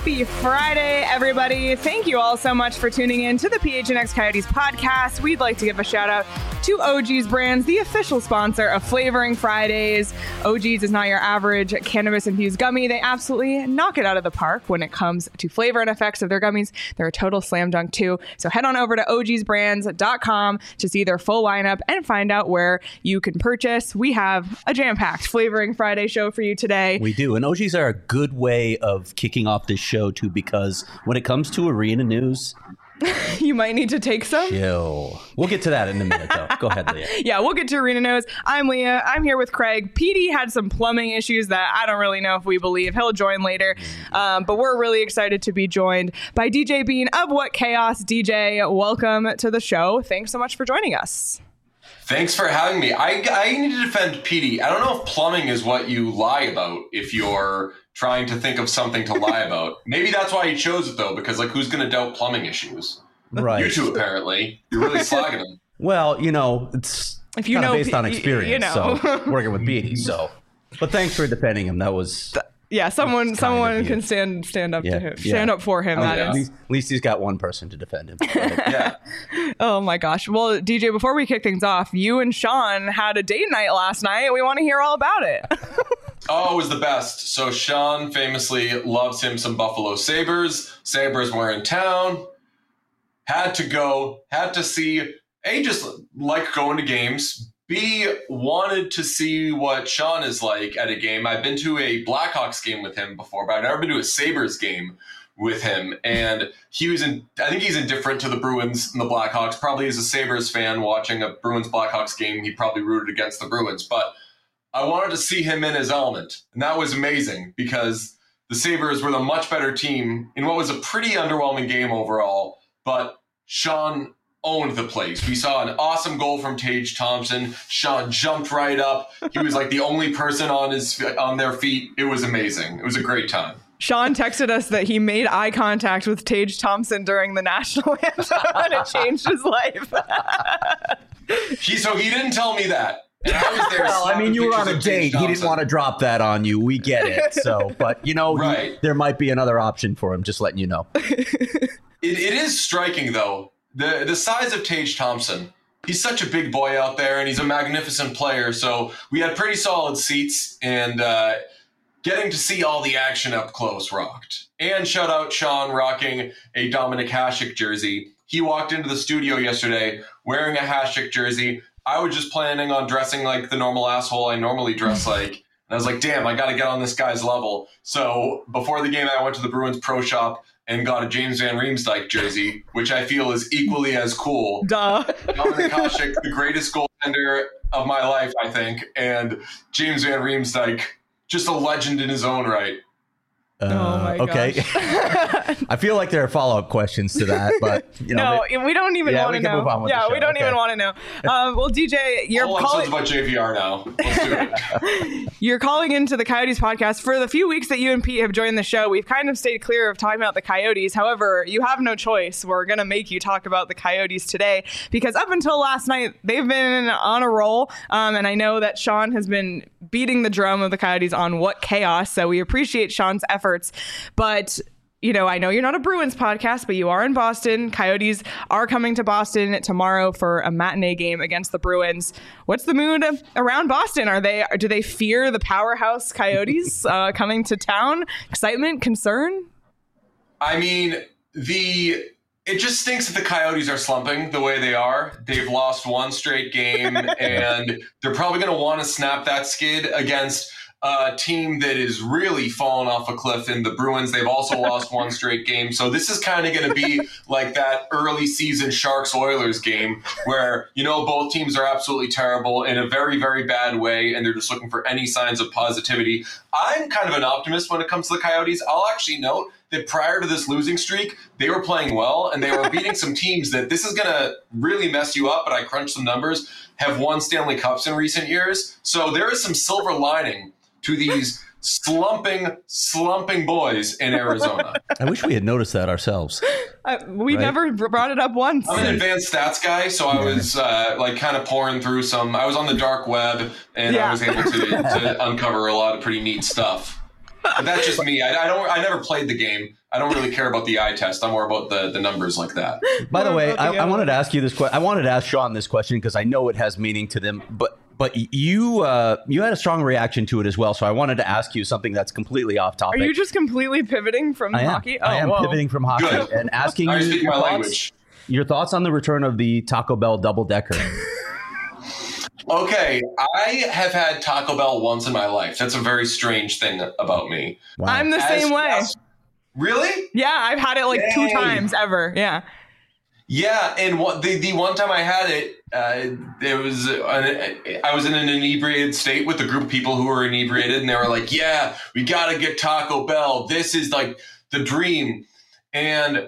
Happy Friday, everybody. Thank you all so much for tuning in to the PHNX Coyotes podcast. We'd like to give a shout out to OG's Brands, the official sponsor of Flavoring Fridays. OG's is not your average cannabis-infused gummy. They absolutely knock it out of the park when it comes to flavor and effects of their gummies. They're a total slam dunk too. So head on over to ogsbrands.com to see their full lineup and find out where you can purchase. We have a jam-packed Flavoring Friday show for you today. We do. And OG's are a good way of kicking off this show too, because when it comes to arena news, you might need to take some. Chill. We'll get to that in a minute, though. Go ahead, Leah. Yeah, we'll get to arena news. I'm Leah. I'm here with Craig. PD had some plumbing issues that I don't really know if we believe. He'll join later. But we're really excited to be joined by DJ Bean of What Chaos. DJ, welcome to the show. Thanks so much for joining us. Thanks for having me. I need to defend PD. I don't know if plumbing is what you lie about if you're trying to think of something to lie about. Maybe that's why he chose it, though, because, like, who's going to doubt plumbing issues? Right. You two, apparently. You're really slagging him. Well, it's if you kind of know, based on experience, so working with PD. So, but thanks for defending him. That was... Yeah, someone can stand up to him. Stand up for him. At least he's got one person to defend him. Yeah. Oh my gosh. Well, DJ, before we kick things off, you and Sean had a date night last night. We want to hear all about it. Oh, it was the best. So Sean famously loves him some Buffalo Sabres. Sabres were in town. Had to see. A, just like going to games. B, wanted to see what Sean is like at a game. I've been to a Blackhawks game with him before, but I've never been to a Sabres game with him. And I think he's indifferent to the Bruins and the Blackhawks. Probably as a Sabres fan watching a Bruins-Blackhawks game, he probably rooted against the Bruins. But I wanted to see him in his element. And that was amazing because the Sabres were the much better team in what was a pretty underwhelming game overall. But Sean owned the place. We saw an awesome goal from Tage Thompson. Sean jumped right up. He was like the only person on their feet. It was amazing. It was a great time. Sean texted us that he made eye contact with Tage Thompson during the national anthem and it changed his life. So he didn't tell me that. And I was there. Well, I mean, you were on a date. He didn't want to drop that on you. We get it. So, but right. There might be another option for him. Just letting you know. It is striking though. The size of Tage Thompson, he's such a big boy out there, and he's a magnificent player. So we had pretty solid seats, and getting to see all the action up close rocked. And shout out Sean rocking a Dominik Hasek jersey. He walked into the studio yesterday wearing a Hasek jersey. I was just planning on dressing like the normal asshole I normally dress like. And I was like, damn, I got to get on this guy's level. So before the game, I went to the Bruins Pro Shop and got a James Van Riemsdyk jersey, which I feel is equally as cool. Duh. Dominik Hasek, the greatest goaltender of my life, I think, and James Van Riemsdyk, just a legend in his own right. Oh my okay. gosh. I feel like there are follow-up questions to that, but no, we don't even want to know. Move on with the show. We don't even want to know. Well, DJ, you're calling about JVR now. Let's do it. You're calling into the Coyotes podcast. For the few weeks that you and Pete have joined the show, we've kind of stayed clear of talking about the Coyotes. However, you have no choice. We're going to make you talk about the Coyotes today because up until last night, they've been on a roll. And I know that Sean has been beating the drum of the Coyotes on What Chaos. So we appreciate Sean's efforts. But I know you're not a Bruins podcast, but you are in Boston. Coyotes are coming to Boston tomorrow for a matinee game against the Bruins. What's the mood around Boston? Do they fear the powerhouse Coyotes coming to town? Excitement, concern? I mean, it just stinks that the Coyotes are slumping the way they are. They've lost one straight game, and they're probably going to want to snap that skid against a team that is really fallen off a cliff in the Bruins. They've also lost one straight game. So this is kind of going to be like that early season Sharks-Oilers game where, both teams are absolutely terrible in a very, very bad way, and they're just looking for any signs of positivity. I'm kind of an optimist when it comes to the Coyotes. I'll actually note that prior to this losing streak, they were playing well, and they were beating some teams that this is going to really mess you up, but I crunched some numbers, have won Stanley Cups in recent years. So there is some silver lining to these slumping boys in Arizona. I wish we had noticed that ourselves. We never brought it up once. I'm an advanced stats guy, so I was kind of pouring through some. I was on the dark web, and I was able to uncover a lot of pretty neat stuff. But that's just me. I never played the game. I don't really care about the eye test. I'm more about the numbers like that. By the way, I wanted to ask you this question. I wanted to ask Sean this question because I know it has meaning to them, but you had a strong reaction to it as well. So I wanted to ask you something that's completely off topic. Are you just completely piveting from hockey? I am pivoting from hockey and asking you your thoughts on the return of the Taco Bell double-decker. Okay, I have had Taco Bell once in my life. That's a very strange thing about me. Wow. I'm the same way. Really? Yeah, I've had it like 2 times ever. Yeah. Yeah, and the one time I had it, I was in an inebriated state with a group of people who were inebriated, and they were like, "Yeah, we gotta get Taco Bell. This is like the dream." And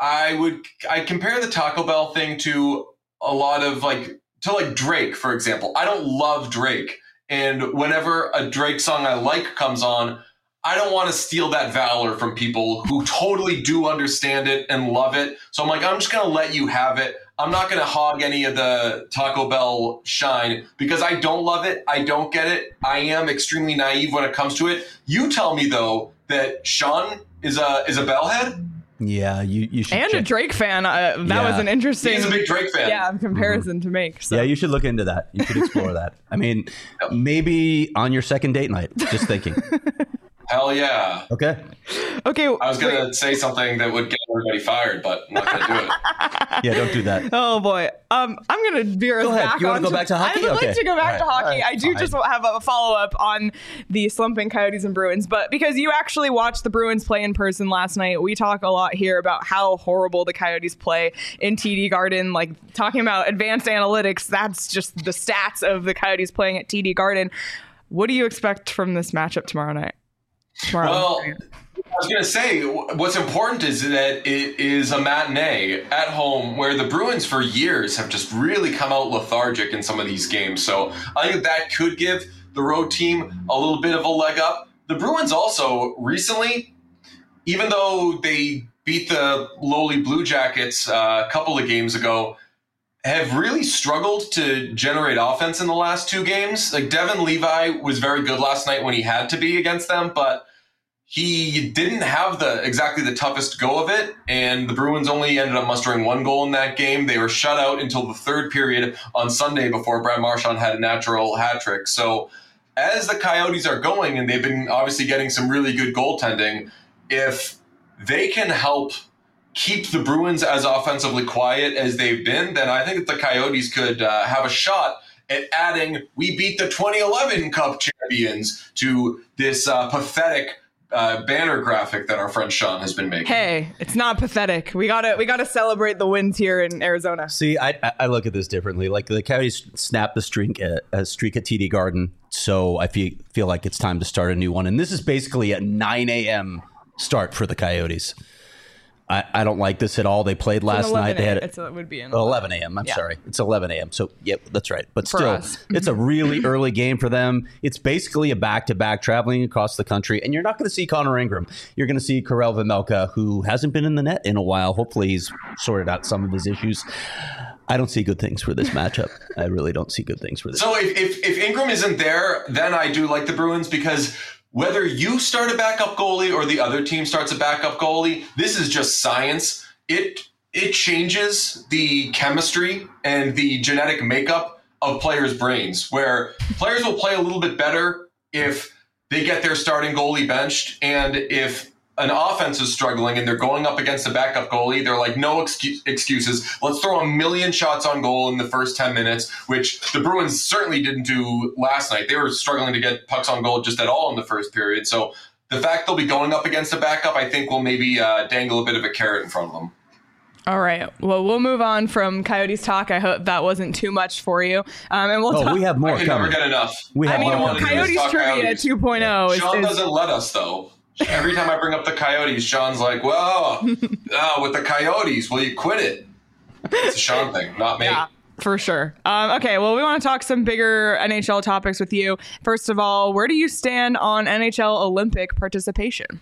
I compare the Taco Bell thing to a lot of like Drake, for example. I don't love Drake, and whenever a Drake song I like comes on, I don't want to steal that valor from people who totally do understand it and love it. So I'm like, I'm just going to let you have it. I'm not going to hog any of the Taco Bell shine because I don't love it. I don't get it. I am extremely naive when it comes to it. You tell me, though, that Sean is a Bellhead. Yeah, you should. And a Drake fan. That was an interesting. He's a big Drake fan. Yeah, comparison to make. So. Yeah, you should look into that. You should explore that. I mean, maybe on your second date night. Just thinking. Hell yeah. Okay. I was going to say something that would get everybody fired, but I'm not going to do it. Yeah, don't do that. Oh, boy. I'm going to veer us back. You want to go back to hockey? I would like to go back to hockey. I do just have a follow-up on the slumping Coyotes and Bruins, but because you actually watched the Bruins play in person last night, we talk a lot here about how horrible the Coyotes play in TD Garden. Like, talking about advanced analytics, that's just the stats of the Coyotes playing at TD Garden. What do you expect from this matchup tomorrow night? Well, I was going to say, what's important is that it is a matinee at home where the Bruins for years have just really come out lethargic in some of these games. So I think that could give the road team a little bit of a leg up. The Bruins also recently, even though they beat the lowly Blue Jackets a couple of games ago, have really struggled to generate offense in the last 2 games. Like Devin Levi was very good last night when he had to be against them, but he didn't have exactly the toughest go of it, and the Bruins only ended up mustering 1 goal in that game. They were shut out until the 3rd period on Sunday before Brad Marchand had a natural hat trick. So as the Coyotes are going, and they've been obviously getting some really good goaltending, if they can help keep the Bruins as offensively quiet as they've been, then I think that the Coyotes could have a shot at adding "We beat the 2011 Cup champions" to this pathetic banner graphic that our friend Sean has been making. Hey, it's not pathetic. We gotta celebrate the wins here in Arizona. See, I look at this differently. Like the Coyotes snapped the streak at TD Garden, so I feel like it's time to start a new one. And this is basically a 9 a.m. start for the Coyotes. I don't like this at all. They played last night. They had it would be 11 a.m. I'm sorry. It's 11 a.m. So, yep, that's right. But still, us. It's a really early game for them. It's basically a back-to-back traveling across the country. And you're not going to see Connor Ingram. You're going to see Karel Vejmelka, who hasn't been in the net in a while. Hopefully he's sorted out some of his issues. I don't see good things for this matchup. I really don't see good things for this. So if Ingram isn't there, then I do like the Bruins because whether you start a backup goalie or the other team starts a backup goalie, this is just science. It changes the chemistry and the genetic makeup of players' brains, where players will play a little bit better if they get their starting goalie benched, and if an offense is struggling and they're going up against a backup goalie, they're like, no excuses. Let's throw 1,000,000 shots on goal in the first 10 minutes, which the Bruins certainly didn't do last night. They were struggling to get pucks on goal just at all in the first period. So the fact they'll be going up against a backup, I think, will maybe dangle a bit of a carrot in front of them. All right. Well, we'll move on from Coyotes talk. I hope that wasn't too much for you. And we'll talk. We have more. I can never get enough. Coyotes trivia 2.0. Sean doesn't let us, though. Every time I bring up the Coyotes, Sean's like, well, with the Coyotes, will you quit it? It's a Sean thing, not me. Yeah, for sure. Okay, well, we want to talk some bigger NHL topics with you. First of all, where do you stand on NHL Olympic participation?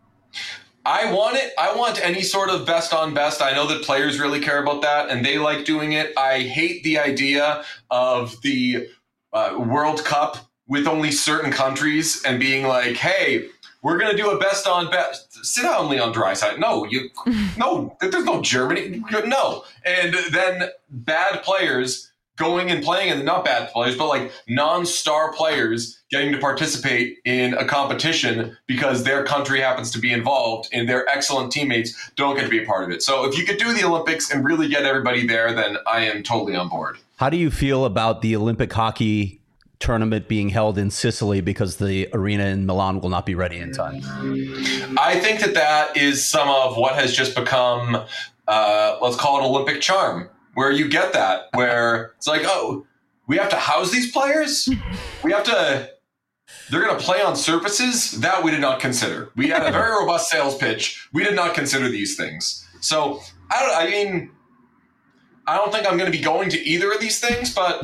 I want it. I want any sort of best on best. I know that players really care about that, and they like doing it. I hate the idea of the World Cup with only certain countries and being like, hey, we're going to do a best on best. Sit down, Leon Draisaitl. No, there's no Germany. No. And then bad players going and playing, and not bad players, but like non-star players getting to participate in a competition because their country happens to be involved and their excellent teammates don't get to be a part of it. So if you could do the Olympics and really get everybody there, then I am totally on board. How do you feel about the Olympic hockey tournament being held in Sicily because the arena in Milan will not be ready in time? I think that is some of what has just become, let's call it Olympic charm, where you get that, where it's like, oh, we have to house these players? They're going to play on surfaces? That we did not consider. We had a very robust sales pitch. We did not consider these things. So, I don't think I'm going to be going to either of these things, but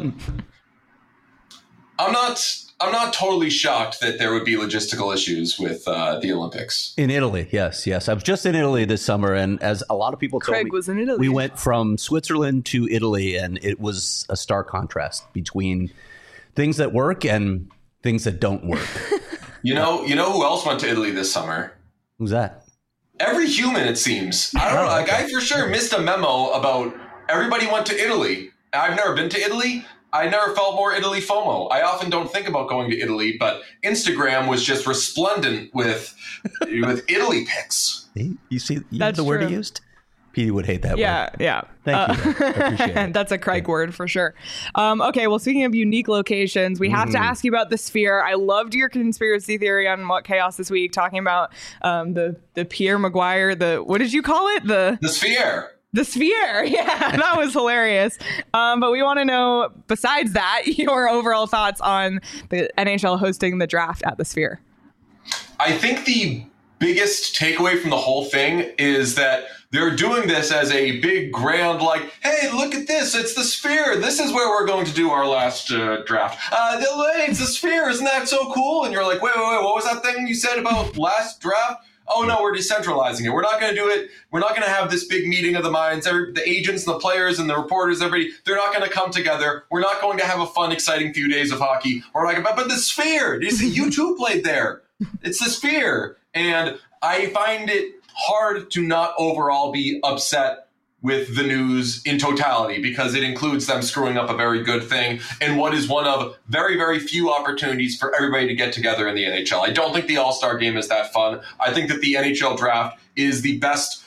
I'm not totally shocked that there would be logistical issues with the Olympics. In Italy, yes. I was just in Italy this summer, and as a lot of people told Craig me, was in Italy. We went from Switzerland to Italy, and it was a stark contrast between things that work and things that don't work. You know who else went to Italy this summer? Who's that? Every human, it seems. I don't know. Like, I for sure missed a memo about everybody went to Italy. I've never been to Italy. I never felt more Italy FOMO. I often don't think about going to Italy, but Instagram was just resplendent with Italy pics. You see That's the word true. he used? Petey would hate that word. Yeah. Thank you. I appreciate it. That's a Craig word for sure. Okay, well, speaking of unique locations, we have to ask you about the Sphere. I loved your conspiracy theory on What Chaos this week, talking about the Pierre Maguire, what did you call it? The Sphere. The Sphere. Yeah, that was hilarious. But we want to know, besides that, your overall thoughts on the NHL hosting the draft at the Sphere. I think the biggest takeaway from the whole thing is that they're doing this as a big, grand, like, hey, look at this. It's the Sphere. This is where we're going to do our last draft. It's the Sphere. Isn't that so cool? And you're like, wait. What was that thing you said about last draft? Oh, no, we're decentralizing it. We're not going to do it. We're not going to have this big meeting of the minds. The agents and the players and the reporters, everybody, they're not going to come together. We're not going to have a fun, exciting few days of hockey. We're like, but the Sphere. You too played there. It's the Sphere. And I find it hard to not overall be upset with the news in totality, because it includes them screwing up a very good thing and what is one of very, very few opportunities for everybody to get together in the NHL. I don't think the All-Star game is that fun. I think that the NHL draft is the best,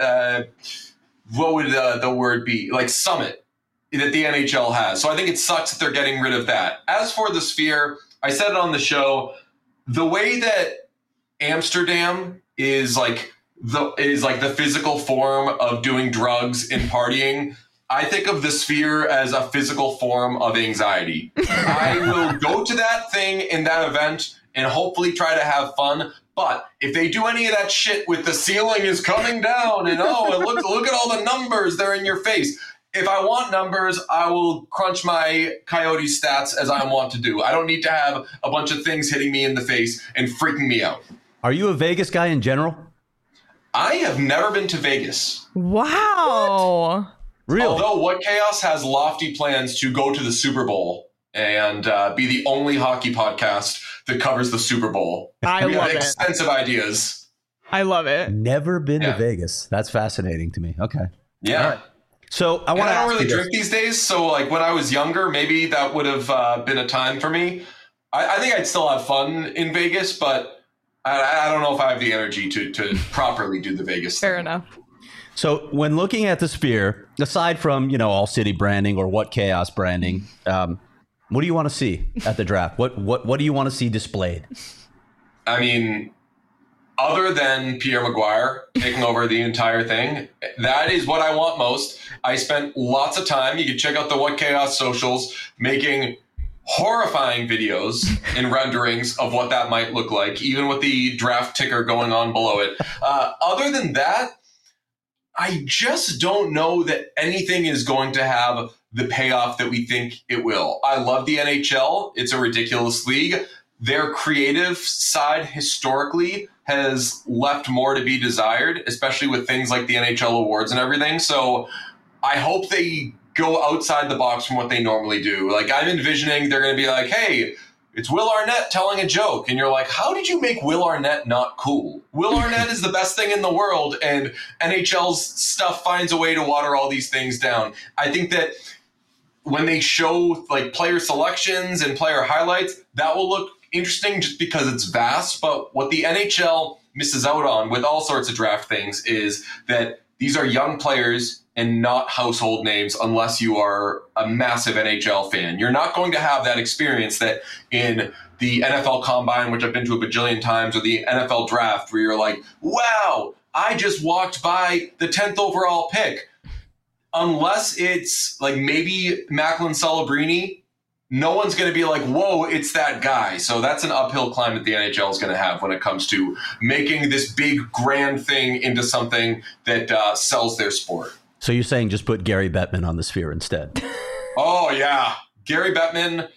what would the word be, like summit that the NHL has. So I think it sucks that they're getting rid of that. As for the Sphere, I said it on the show, the way that Amsterdam is like the physical form of doing drugs and partying, I think of the Sphere as a physical form of anxiety. I will go to that thing in that event and hopefully try to have fun. But if they do any of that shit with the ceiling is coming down and look at all the numbers, they're in your face. If I want numbers, I will crunch my Coyote stats as I want to do. I don't need to have a bunch of things hitting me in the face and freaking me out. Are you a Vegas guy in general? I have never been to Vegas. Wow. Really? Although What Chaos has lofty plans to go to the Super Bowl and be the only hockey podcast that covers the Super Bowl. I we love have it. extensive ideas. I love it. Never been Yeah. to Vegas. That's fascinating to me. Okay. Yeah. All right. So I And want to I don't ask really you drink this. these days, so like when I was younger, maybe that would have been a time for me. I think I'd still have fun in Vegas, but I don't know if I have the energy to properly do the Vegas thing. Fair enough. So when looking at the Sphere, aside from, All City branding or What Chaos branding, what do you want to see at the draft? What do you want to see displayed? I mean, other than Pierre Maguire taking over the entire thing, that is what I want most. I spent lots of time. You can check out the What Chaos socials making horrifying videos and renderings of what that might look like, even with the draft ticker going on below it. Other than that, I just don't know that anything is going to have the payoff that we think it will. I love the NHL. It's a ridiculous league. Their creative side historically has left more to be desired, especially with things like the NHL awards and everything. So I hope they go outside the box from what they normally do. Like, I'm envisioning they're going to be like, hey, it's Will Arnett telling a joke. And you're like, how did you make Will Arnett not cool? Will Arnett is the best thing in the world, and NHL's stuff finds a way to water all these things down. I think that when they show like player selections and player highlights, that will look interesting just because it's vast. But what the NHL misses out on with all sorts of draft things is that these are young players and not household names unless you are a massive NHL fan. You're not going to have that experience that in the NFL Combine, which I've been to a bajillion times, or the NFL Draft, where you're like, wow, I just walked by the 10th overall pick. Unless it's like maybe Macklin Celebrini, no one's going to be like, whoa, it's that guy. So that's an uphill climb that the NHL is going to have when it comes to making this big, grand thing into something that sells their sport. So you're saying just put Gary Bettman on the Sphere instead? Oh, yeah. Gary Bettman.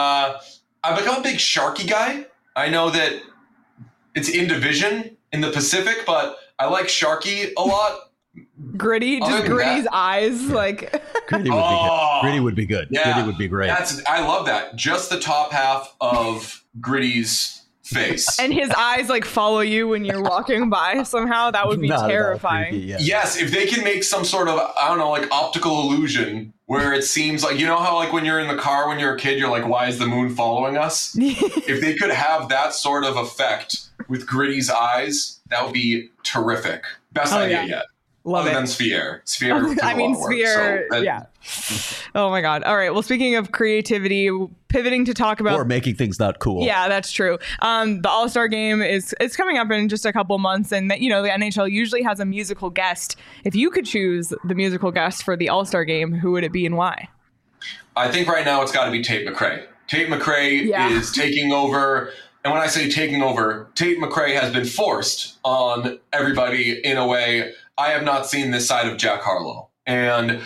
I've become a big Sharky guy. I know that it's in division in the Pacific, but I like Sharky a lot. Gritty, just Gritty's eyes, like Gritty would be good. Gritty would be good. Yeah, Gritty would be great. I love that. Just the top half of Gritty's face, and his eyes like follow you when you're walking by. Somehow that would be terrifying. Creepy, yeah. Yes, if they can make some sort of, I don't know, like optical illusion where it seems like, you know how like when you're in the car when you're a kid, you're like, why is the moon following us? If they could have that sort of effect with Gritty's eyes, that would be terrific. Best idea yet. Love Other it. than Sphere. Sphere. I mean, Sphere. Yeah. Oh my God. All right. Well, speaking of creativity, pivoting to talk about or making things not cool. Yeah, that's true. The All-Star Game it's coming up in just a couple months, and that, you know, the NHL usually has a musical guest. If you could choose the musical guest for the All-Star Game, who would it be and why? I think right now it's got to be Tate McRae. Tate McRae is taking over. And when I say taking over, Tate McRae has been forced on everybody in a way I have not seen this side of Jack Harlow. And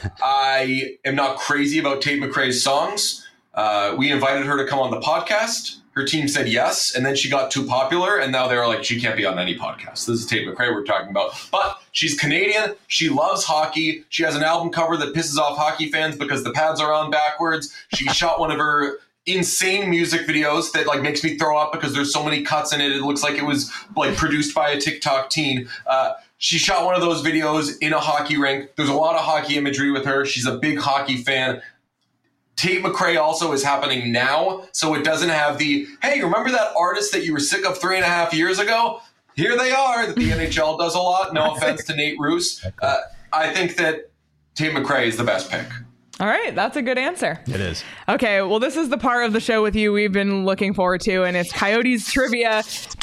I am not crazy about Tate McRae's songs. We invited her to come on the podcast. Her team said yes, and then she got too popular, and now they're like, she can't be on any podcast. This is Tate McRae we're talking about. But she's Canadian. She loves hockey. She has an album cover that pisses off hockey fans because the pads are on backwards. She shot one of her insane music videos that like makes me throw up because there's so many cuts in it. It looks like it was like produced by a TikTok teen. She shot one of those videos in a hockey rink. There's a lot of hockey imagery with her. She's a big hockey fan. Tate McRae also is happening now, so it doesn't have the, hey, remember that artist that you were sick of 3.5 years ago? Here they are. The NHL does a lot. No offense to Nate Roos. I think that Tate McRae is the best pick. All right, that's a good answer. It is. Okay, well, this is the part of the show with you we've been looking forward to, and it's Coyotes Trivia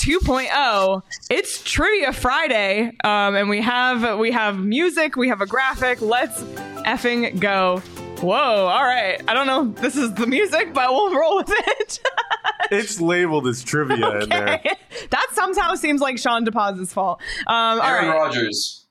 2.0. It's Trivia Friday, and we have music, we have a graphic. Let's effing go. Whoa, all right. I don't know if this is the music, but we'll roll with it. It's labeled as trivia in there. That somehow seems like Sean DePaz's fault. Aaron Rodgers.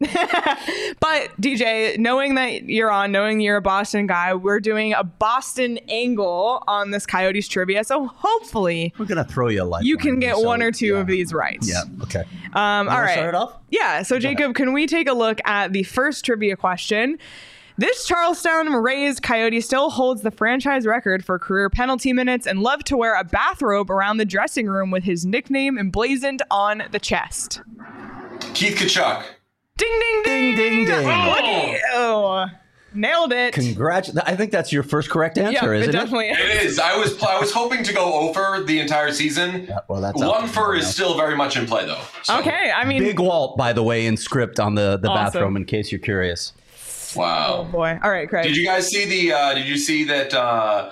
But DJ, knowing that you're on, knowing you're a Boston guy, we're doing a Boston angle on this Coyotes trivia. So hopefully we're gonna throw you a light. You can get one or two of these right. Yeah. Okay. All right. Start it off? Yeah. So Jacob, can we take a look at the first trivia question? This Charlestown Rays Coyote still holds the franchise record for career penalty minutes and loved to wear a bathrobe around the dressing room with his nickname emblazoned on the chest. Keith Tkachuk. Ding, ding, ding, ding, ding. Oh, nailed it. Congratulations. I think that's your first correct answer, isn't it? Definitely is. It is. I was hoping to go over the entire season. Yeah, well, that's one for is still very much in play, though. So. Okay, I mean... Big Walt, by the way, in script on the bathroom, in case you're curious. Wow. Oh boy. All right, Craig. Did you guys see did you see that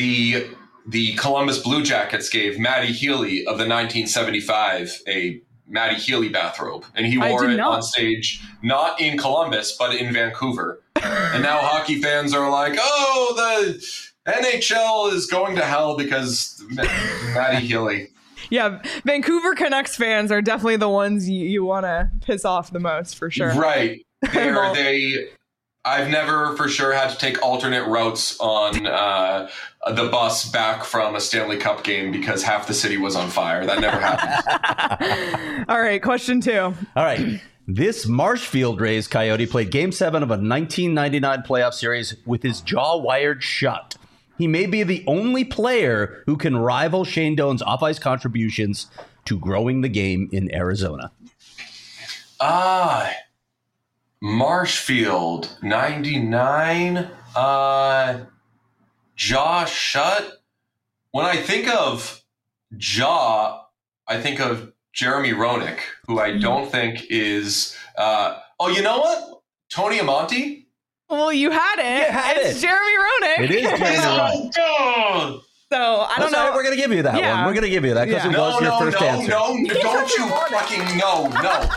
the Columbus Blue Jackets gave Matty Healy of the 1975 a Matty Healy bathrobe, and he wore it on stage, not in Columbus, but in Vancouver. And now hockey fans are like, oh, the NHL is going to hell because Matty Healy. Yeah, Vancouver Canucks fans are definitely the ones you want to piss off the most, for sure. Right. I've never for sure had to take alternate routes on the bus back from a Stanley Cup game because half the city was on fire. That never happened. All right, question 2. All right. This Marshfield Rays Coyote played Game 7 of a 1999 playoff series with his jaw wired shut. He may be the only player who can rival Shane Doan's off-ice contributions to growing the game in Arizona. Marshfield, 99. Josh Shutt. When I think of Jaw, I think of Jeremy Roenick, who I don't think is. You know what? Tony Amonte. Well, you had it. It's Jeremy Roenick. It is Jeremy Roenick. So I don't know. Right, we're going to give you that one. We're going to give you that because it was your first answer. Don't you fucking no.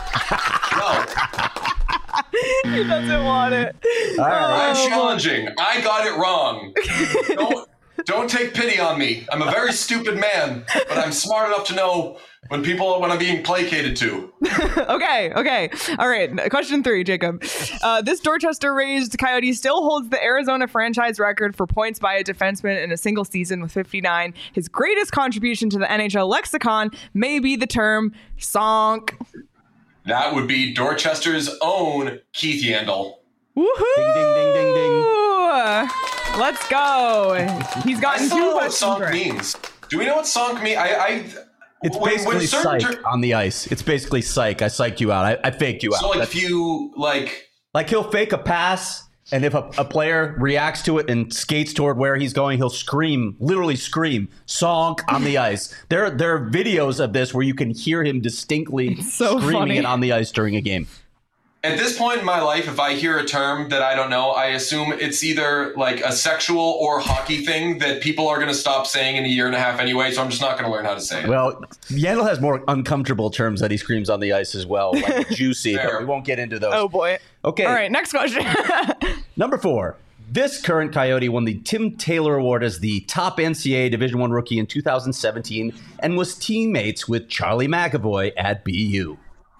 He doesn't want it. All right. I'm challenging. I got it wrong. Don't take pity on me. I'm a very stupid man, but I'm smart enough to know when I'm being placated to. Okay. All right. Question 3, Jacob. This Dorchester-raised Coyote still holds the Arizona franchise record for points by a defenseman in a single season with 59. His greatest contribution to the NHL lexicon may be the term "sonk." That would be Dorchester's own Keith Yandel. Woohoo! Ding, ding, ding, ding, ding. Let's go. He's gotten 2 I don't know what questions sonk right. means. Do we know what sonk means? It's basically psych on the ice. It's basically psych. I psyched you out. I faked you out. So if you like he'll fake a pass, and if a player reacts to it and skates toward where he's going, he'll literally scream, "Sonk" on the ice. There are videos of this where you can hear him distinctly screaming it on the ice during a game. At this point in my life, if I hear a term that I don't know, I assume it's either like a sexual or hockey thing that people are going to stop saying in a year and a half anyway, so I'm just not going to learn how to say it. Well, Yandel has more uncomfortable terms that he screams on the ice as well, like juicy, but we won't get into those. Oh, boy. Okay. All right, next question. Number 4. This current Coyote won the Tim Taylor Award as the top NCAA Division I rookie in 2017 and was teammates with Charlie McAvoy at BU.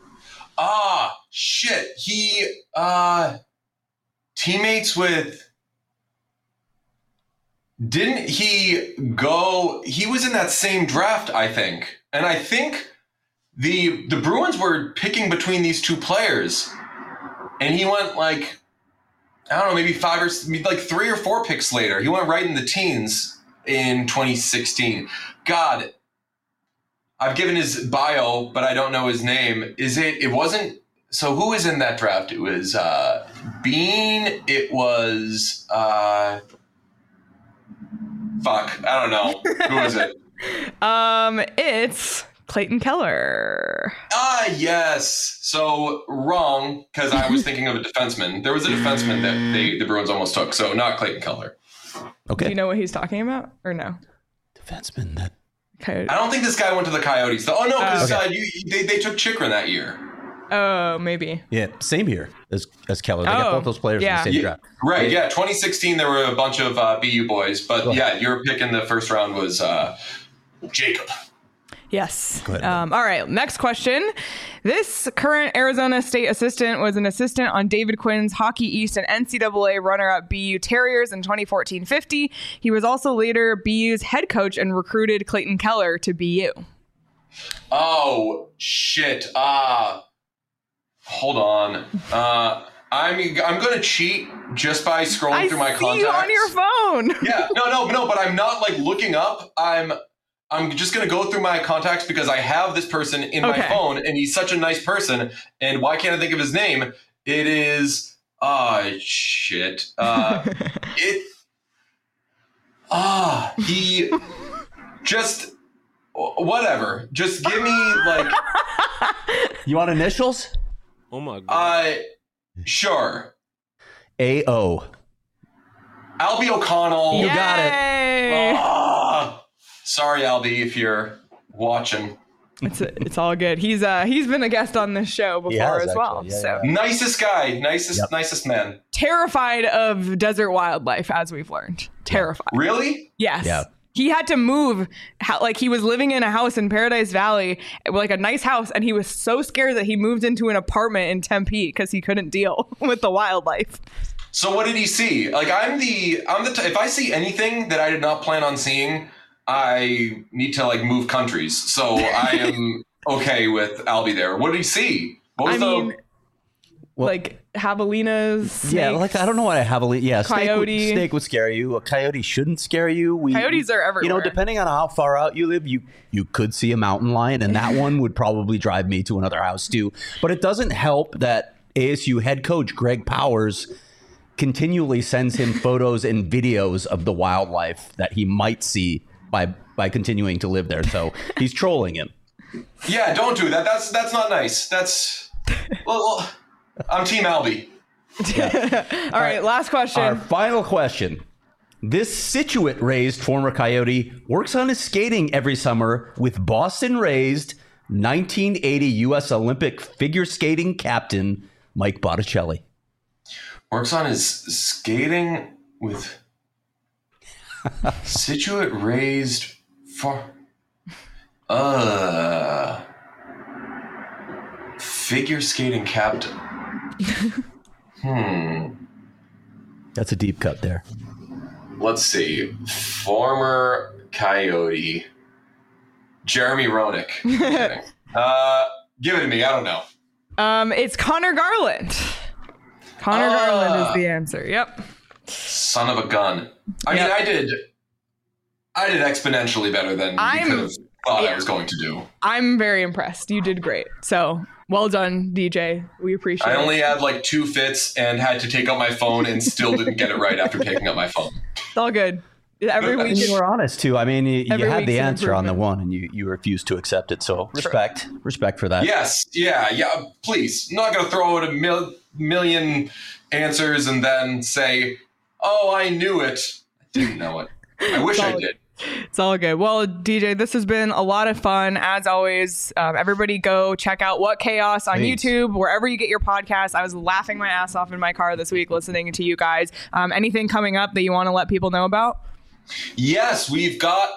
Shit. He, teammates with, didn't he go, he was in that same draft, I think. And I think the Bruins were picking between these 2 players. And he went like, I don't know, maybe 3 or 4 picks later. He went right in the teens in 2016. God, I've given his bio, but I don't know his name. It wasn't, so who was in that draft? It was Bean. It was, fuck, I don't know. Who was it? It's Clayton Keller. Yes. So wrong, because I was thinking of a defenseman. There was a defenseman that the Bruins almost took, so not Clayton Keller. Okay. Do you know what he's talking about or no? Defenseman that. Coyote. I don't think this guy went to the Coyotes. Oh, no, because they took Chikrin that year. Oh, maybe. Yeah, same here as Keller. They got both those players in the same draft. Right, yeah. 2016, there were a bunch of BU boys. But, your pick in the first round was Jacob. Yes. All right. Next question. This current Arizona State assistant was an assistant on David Quinn's Hockey East and NCAA runner-up BU Terriers in 2014-15. He was also later BU's head coach and recruited Clayton Keller to BU. Oh, shit. Hold on. I'm going to cheat just by scrolling through my contacts. I see you on your phone. Yeah. No, but I'm not like looking up. I'm just going to go through my contacts because I have this person in my phone and he's such a nice person. And why can't I think of his name? It is, shit. He just, whatever. Just give me like. You want initials? Oh my God. Sure. A.O. Albie O'Connell. You got it. Sorry, Albie, if you're watching. It's all good. He's been a guest on this show before as well. Yeah, so nicest guy, nicest man. Terrified of desert wildlife, as we've learned. Terrified. Really? Yes. Yeah. He had to move, like he was living in a house in Paradise Valley, like a nice house, and he was so scared that he moved into an apartment in Tempe because he couldn't deal with the wildlife. So what did he see? Like if I see anything that I did not plan on seeing, I need to like move countries. So I am okay with Albie there. What did he see? What was like javelinas. Snakes, yeah, like I don't know what a javelina. Yeah, coyote. Snake would scare you. A coyote shouldn't scare you. Coyotes are everywhere. You know, depending on how far out you live, you could see a mountain lion, and that one would probably drive me to another house too. But it doesn't help that ASU head coach Greg Powers continually sends him photos and videos of the wildlife that he might see by continuing to live there. So he's trolling him. Yeah, don't do that. That's not nice. Well, I'm Team Albie. Yeah. All right, last question. Our final question. This Scituate-raised former Coyote works on his skating every summer with Boston-raised 1980 U.S. Olympic figure skating captain Mike Botticelli. Works on his skating with Scituate-raised figure skating captain. That's a deep cut there. Let's see. Former Coyote. Jeremy Roenick. Give it to me. I don't know. It's Connor Garland. Connor Garland is the answer. Yep. Son of a gun. I mean, I did exponentially better than you could have thought I was going to do. I'm very impressed. You did great. So well done, DJ. We appreciate it. I only had like 2 fits and had to take out my phone and still didn't get it right after taking out my phone. It's all good. Every week you were honest too. I mean, you had the answer on the one, and you refused to accept it. So respect for that. Yes, yeah. Please, I'm not going to throw out a million answers and then say, "Oh, I knew it." I didn't know it. I wish I did. It's all good. Well, DJ, this has been a lot of fun. As always, everybody go check out What Chaos on YouTube, wherever you get your podcasts. I was laughing my ass off in my car this week listening to you guys. Anything coming up that you want to let people know about? Yes, we're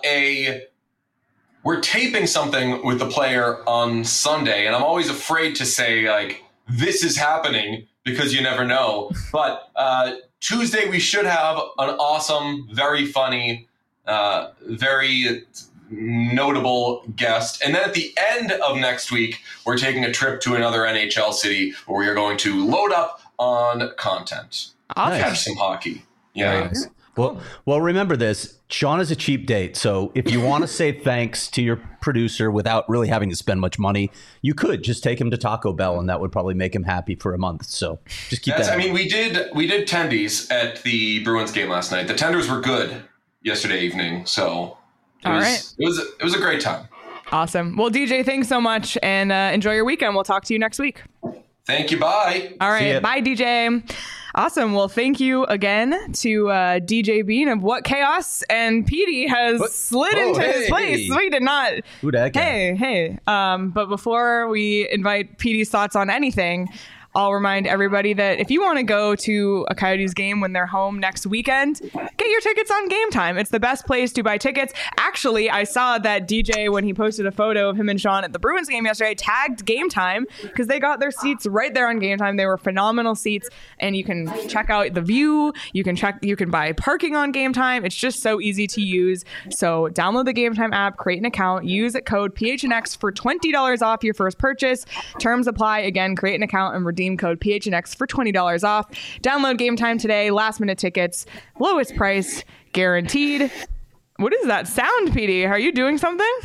taping something with the player on Sunday, and I'm always afraid to say, like, this is happening because you never know. But Tuesday, we should have an awesome, very funny, very notable guest. And then at the end of next week, we're taking a trip to another NHL city where we are going to load up on content. Awesome. Catch some hockey. Yeah. Nice. Well, remember this. Sean is a cheap date. So if you want to say thanks to your producer without really having to spend much money, you could just take him to Taco Bell, and that would probably make him happy for a month. So just keep that. I mean, we did tendies at the Bruins game last night. The tenders were good yesterday evening. So it was a great time. Awesome. Well, DJ, thanks so much, and enjoy your weekend. We'll talk to you next week. Thank you. Bye. All right. Bye, DJ. Awesome. Well, thank you again to DJ Bean of What Chaos, and Petey has slid into his place. We did not. Who that guy? Hey. But before we invite Petey's thoughts on anything, I'll remind everybody that if you want to go to a Coyotes game when they're home next weekend, get your tickets on Game Time. It's the best place to buy tickets. Actually, I saw that DJ, when he posted a photo of him and Sean at the Bruins game yesterday, tagged Game Time because they got their seats right there on Game Time. They were phenomenal seats, and you can check out the view. You can buy parking on Game Time. It's just so easy to use. So download the Game Time app, create an account, use code PHNX for $20 off your first purchase. Terms apply. Again, create an account and redeem code PHNX for $20 off. Download Game Time today. Last minute tickets, lowest price guaranteed. What is that sound, Petey? Are you doing something?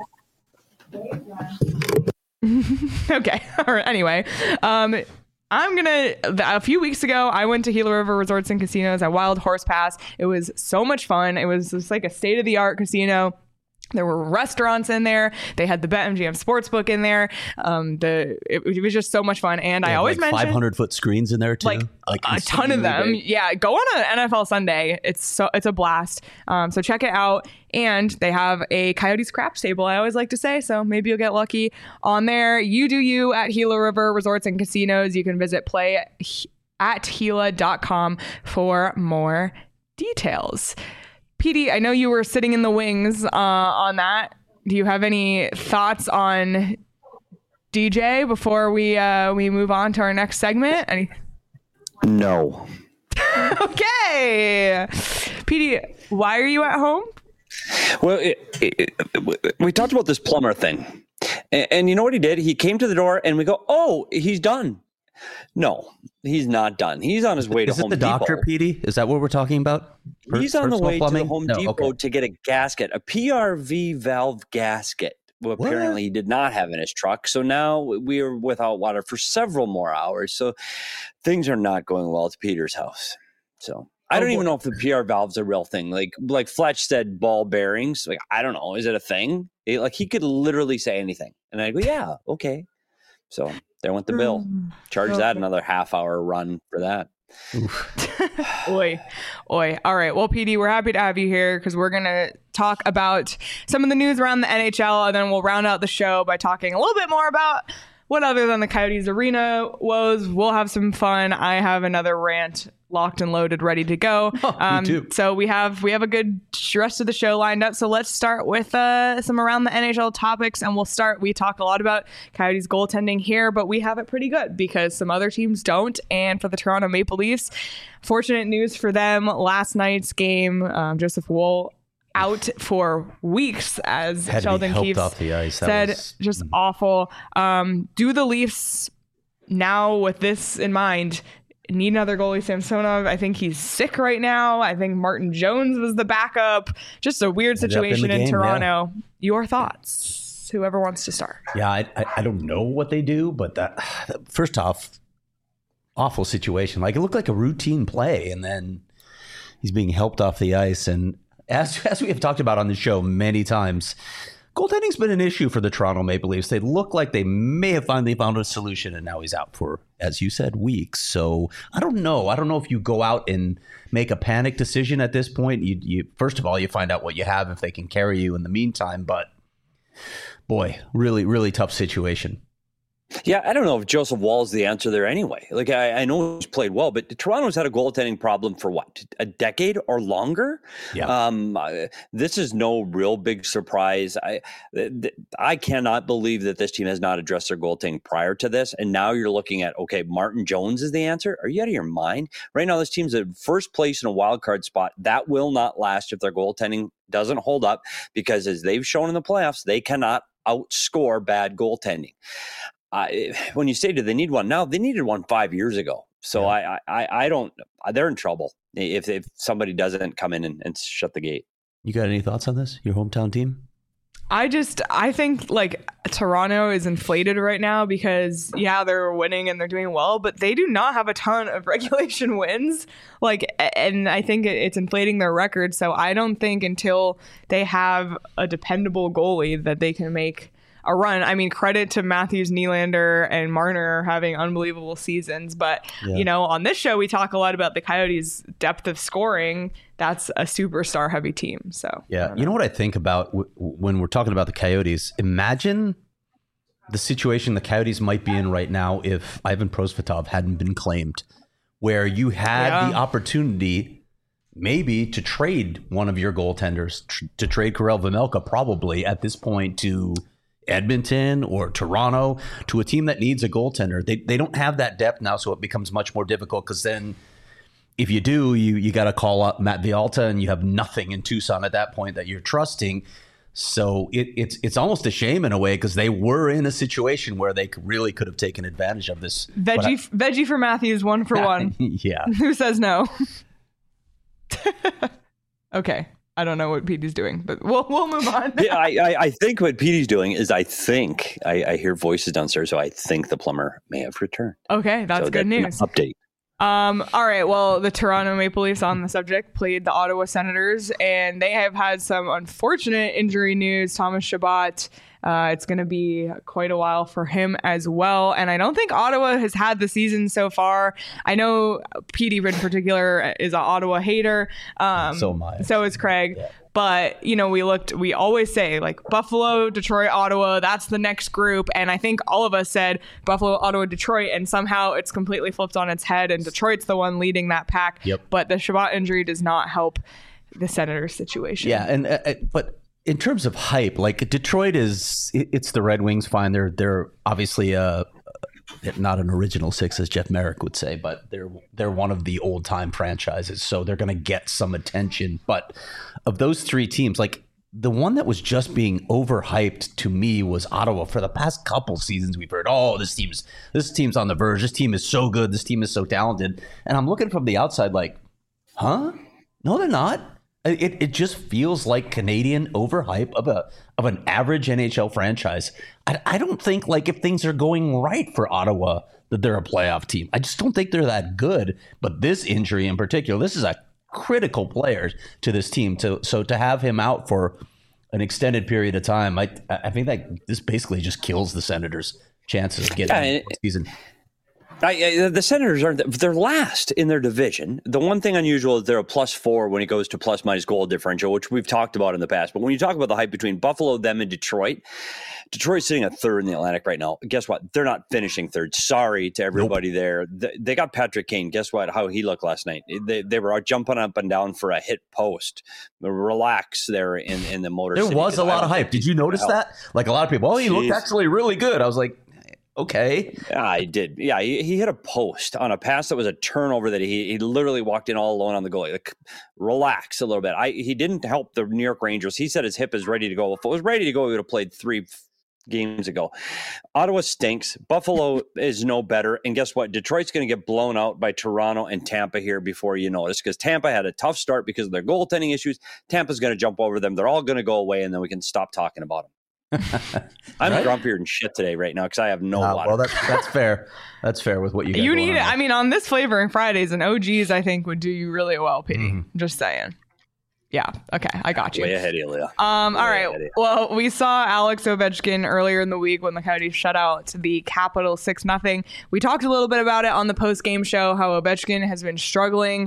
Okay. All right. Anyway, a few weeks ago, I went to Gila River Resorts and Casinos at Wild Horse Pass. It was so much fun. It was just like a state-of-the-art casino. There were restaurants in there. They had the BetMGM Sportsbook in there. It was just so much fun. And I always mention 500-foot screens in there too, like a ton of them. Big. Yeah, go on an NFL Sunday. It's a blast. So check it out. And they have a Coyotes craps table, I always like to say. So maybe you'll get lucky on there. You do you at Gila River Resorts and Casinos. You can visit play@gila.com for more details. Petey, I know you were sitting in the wings on that. Do you have any thoughts on DJ before we move on to our next segment? No. Okay. Petey, why are you at home? Well, we talked about this plumber thing. And you know what he did? He came to the door and we go, oh, he's done. No, he's not done. He's on his way to Is it Home the Depot. doctor, Petey? Is that what we're talking about? He's on the way plumbing? to the Home No, Depot okay. to get a gasket, a PRV valve gasket. Well, apparently he did not have in his truck. So now we are without water for several more hours. So things are not going well at Peter's house. So I don't even know if the PR valve's a real thing. Like Fletch said, ball bearings. Like, I don't know. Is it a thing? He could literally say anything. And I go, yeah, okay. So there went the bill. Charge that another half-hour run for that. Oi. All right. Well, PD, we're happy to have you here because we're going to talk about some of the news around the NHL, and then we'll round out the show by talking a little bit more about what other than the Coyotes arena woes. We'll have some fun. I have another rant locked and loaded, ready to go. Me too. So we have a good rest of the show lined up. So let's start with some around the NHL topics, and we talk a lot about Coyotes goaltending here, but we have it pretty good because some other teams don't. And for the Toronto Maple Leafs, fortunate news for them. Last night's game, Joseph Woll out for weeks, as Had to be Sheldon helped Keefe off the ice. That said. was Just awful. Do the Leafs now, with this in mind, need another goalie? Samsonov, I think he's sick right now. I think Martin Jones was the backup. Just a weird situation in Toronto. Yeah. Your thoughts? Whoever wants to start. Yeah, I don't know what they do, but that first off, awful situation. Like, it looked like a routine play, and then he's being helped off the ice. And as we have talked about on the show many times, goaltending's been an issue for the Toronto Maple Leafs. They look like they may have finally found a solution, and now he's out for, as you said, weeks. So I don't know. I don't know if you go out and make a panic decision at this point. You first of all, you find out what you have if they can carry you in the meantime. But boy, really, really tough situation. Yeah, I don't know if Joseph Woll is the answer there anyway. Like, I know he's played well, but Toronto's had a goaltending problem for what, a decade or longer? Yeah. This is no real big surprise. I cannot believe that this team has not addressed their goaltending prior to this. And now you're looking at, okay, Martin Jones is the answer. Are you out of your mind? Right now, this team's at first place in a wild card spot. That will not last if their goaltending doesn't hold up, because as they've shown in the playoffs, they cannot outscore bad goaltending. When you say, do they need one now? They needed one 5 years ago. So yeah. I don't. They're in trouble if somebody doesn't come in and shut the gate. You got any thoughts on this? Your hometown team? I think like Toronto is inflated right now because they're winning and they're doing well, but they do not have a ton of regulation wins. And I think it's inflating their record. So I don't think until they have a dependable goalie that they can make a run. I mean, credit to Matthews, Nylander, and Marner having unbelievable seasons. But, on this show, we talk a lot about the Coyotes' depth of scoring. That's a superstar heavy team. So, yeah. You know what I think about when we're talking about the Coyotes? Imagine the situation the Coyotes might be in right now if Ivan Prosvetov hadn't been claimed, where you had the opportunity maybe to trade one of your goaltenders, to trade Karel Vejmelka probably at this point to Edmonton or Toronto, to a team that needs a goaltender. They don't have that depth now, so it becomes much more difficult, because then if you do, you got to call up Matt Vialta, and you have nothing in Tucson at that point that you're trusting. So it's almost a shame in a way, because they were in a situation where they really could have taken advantage of this. Veggie for Matthews, 1 for 1. Yeah. Who says no? Okay. I don't know what Petey's doing, but we'll move on. Yeah, I think what Petey's doing is I hear voices downstairs, so I think the plumber may have returned. Okay, that's good news. Update. All right. Well, the Toronto Maple Leafs, on the subject, played the Ottawa Senators, and they have had some unfortunate injury news. Thomas Chabot, it's going to be quite a while for him as well. And I don't think Ottawa has had the season so far. I know Petey in particular is an Ottawa hater. So am I. So is Craig. Yeah. But, we always say like Buffalo, Detroit, Ottawa, that's the next group. And I think all of us said Buffalo, Ottawa, Detroit, and somehow it's completely flipped on its head, and Detroit's the one leading that pack. Yep. But the Chabot injury does not help the Senators situation. Yeah. And, but in terms of hype, like Detroit it's the Red Wings, fine. They're obviously not an original six, as Jeff Merrick would say, but they're one of the old time franchises, so they're going to get some attention. But of those three teams, like the one that was just being overhyped to me was Ottawa. For the past couple seasons, we've heard, oh, this team's on the verge. This team is so good. This team is so talented. And I'm looking from the outside like, huh? No, they're not. It just feels like Canadian overhype of an average NHL franchise. I don't think, like, if things are going right for Ottawa, that they're a playoff team. I just don't think they're that good. But this injury in particular, this is a critical player to this team. So to have him out for an extended period of time, I think that this basically just kills the Senators' chances of getting the season. The Senators they're last in their division. The one thing unusual is they're a +4 when it goes to plus-minus goal differential, which we've talked about in the past. But when you talk about the hype between Buffalo, them, and Detroit's sitting at third in the Atlantic right now. Guess what? They're not finishing third. Sorry to everybody there. They got Patrick Kane. Guess what? How he looked last night. They were out jumping up and down for a hit post. Relax there in the Motor City. There was a lot of hype. Did you notice that? Like, a lot of people, he looked actually really good. I was like, okay. Yeah, I did. Yeah, he hit a post on a pass that was a turnover that he literally walked in all alone on the goalie. Like, relax a little bit. He didn't help the New York Rangers. He said his hip is ready to go. If it was ready to go, he would have played 3 games ago. Ottawa stinks. Buffalo is no better. And guess what? Detroit's going to get blown out by Toronto and Tampa here before you notice, because Tampa had a tough start because of their goaltending issues. Tampa's going to jump over them. They're all going to go away, and then we can stop talking about them. I'm grumpier than shit today right now because I have no water. Well, that's fair. That's fair with what you got. You need it. I mean, on this Flavoring Fridays, and OGs, I think, would do you really well, Petey. Mm-hmm. Just saying. Yeah. Okay. I got you. Way ahead, Ilya. All right. Well, we saw Alex Ovechkin earlier in the week when the Coyotes shut out the Capitals 6-0. We talked a little bit about it on the post-game show, how Ovechkin has been struggling.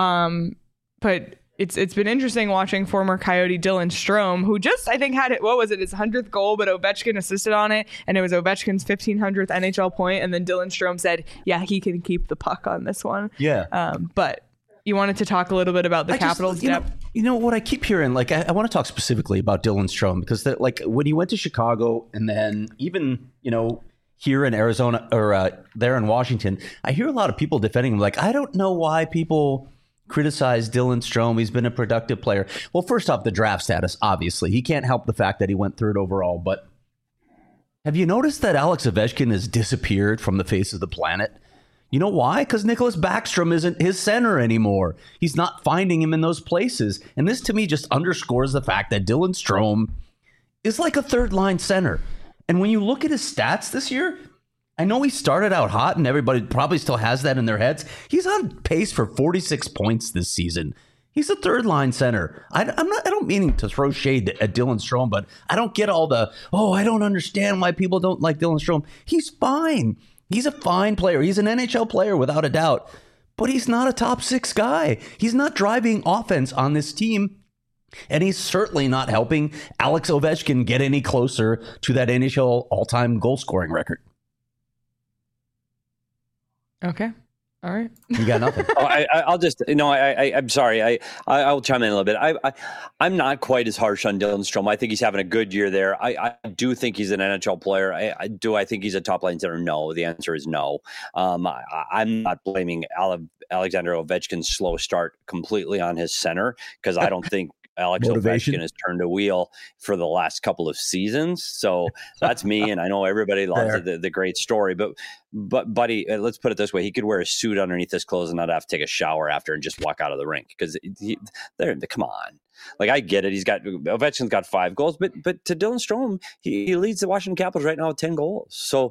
But it's been interesting watching former Coyote Dylan Strome, who just, I think, had his 100th goal, but Ovechkin assisted on it, and it was Ovechkin's 1500th NHL point, and then Dylan Strome said, yeah, he can keep the puck on this one. Yeah. But you wanted to talk a little bit about the Capitals' depth? You know what I keep hearing, like, I want to talk specifically about Dylan Strome, because like when he went to Chicago and then even, here in Arizona or there in Washington, I hear a lot of people defending him. Like, I don't know why people criticize Dylan Strome. He's been a productive player. Well, first off, the draft status, obviously. He can't help the fact that he went third overall. But have you noticed that Alex Ovechkin has disappeared from the face of the planet? You know why? Because Nicholas Backstrom isn't his center anymore. He's not finding him in those places. And this, to me, just underscores the fact that Dylan Strome is like a third-line center. And when you look at his stats this year, I know he started out hot, and everybody probably still has that in their heads. He's on pace for 46 points this season. He's a third-line center. I don't mean to throw shade at Dylan Strome, but I don't get all the, I don't understand why people don't like Dylan Strome. He's fine. He's a fine player. He's an NHL player without a doubt, but he's not a top 6 guy. He's not driving offense on this team, and he's certainly not helping Alex Ovechkin get any closer to that NHL all-time goal-scoring record. Okay. All right. You got nothing. I'll just, I'm sorry. I'll chime in a little bit. I'm not quite as harsh on Dylan Strome. I think he's having a good year there. I do think he's an NHL player. I think he's a top line center? No. The answer is no. I'm not blaming Alexander Ovechkin's slow start completely on his center, because I don't think Alex Ovechkin has turned a wheel for the last couple of seasons. So that's me. And I know everybody loves the great story, but buddy, let's put it this way. He could wear a suit underneath his clothes and not have to take a shower after and just walk out of the rink, because come on. Like, I get it. Ovechkin's got 5 goals, but to Dylan Strome, he leads the Washington Capitals right now with 10 goals. So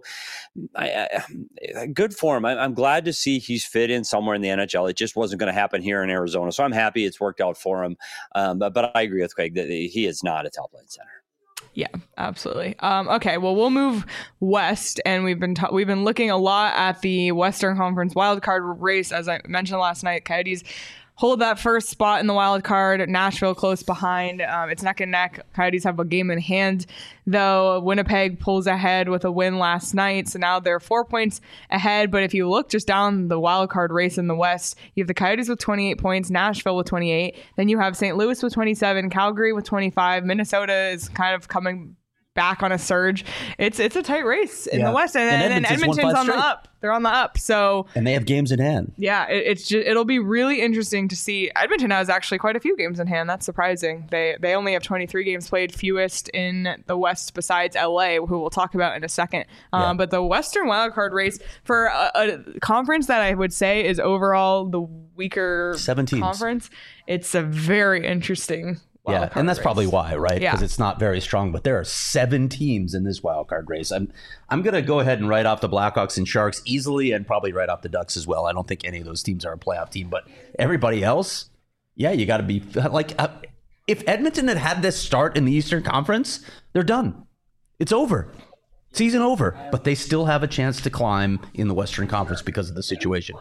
good for him. I'm glad to see he's fit in somewhere in the NHL. It just wasn't going to happen here in Arizona. So I'm happy it's worked out for him. But I agree with Craig that he is not a top line center. Yeah, absolutely. Okay, well, we'll move west, and we've been looking a lot at the Western Conference wildcard race. As I mentioned last night, Coyotes hold that first spot in the wild card. Nashville close behind. It's neck and neck. Coyotes have a game in hand, though. Winnipeg pulls ahead with a win last night, so now they're 4 points ahead. But if you look just down the wild card race in the West, you have the Coyotes with 28 points, Nashville with 28. Then you have St. Louis with 27, Calgary with 25. Minnesota is kind of coming back on a surge. It's a tight race in the West, and then Edmonton's on the up. They're on the up, so and they have games in hand. Yeah, it'll be really interesting to see. Edmonton has actually quite a few games in hand. That's surprising. They only have 23 games played, fewest in the West besides LA, who we'll talk about in a second. But the Western wildcard race for a conference that I would say is overall the weaker 17 conference, it's a very interesting. Yeah, and that's race. Probably why, right? Because it's not very strong. But there are 7 teams in this wild card race. I'm going to go ahead and write off the Blackhawks and Sharks easily, and probably write off the Ducks as well. I don't think any of those teams are a playoff team. But everybody else, you got to be like, if Edmonton had this start in the Eastern Conference, they're done. It's over. Season over. But they still have a chance to climb in the Western Conference because of the situation.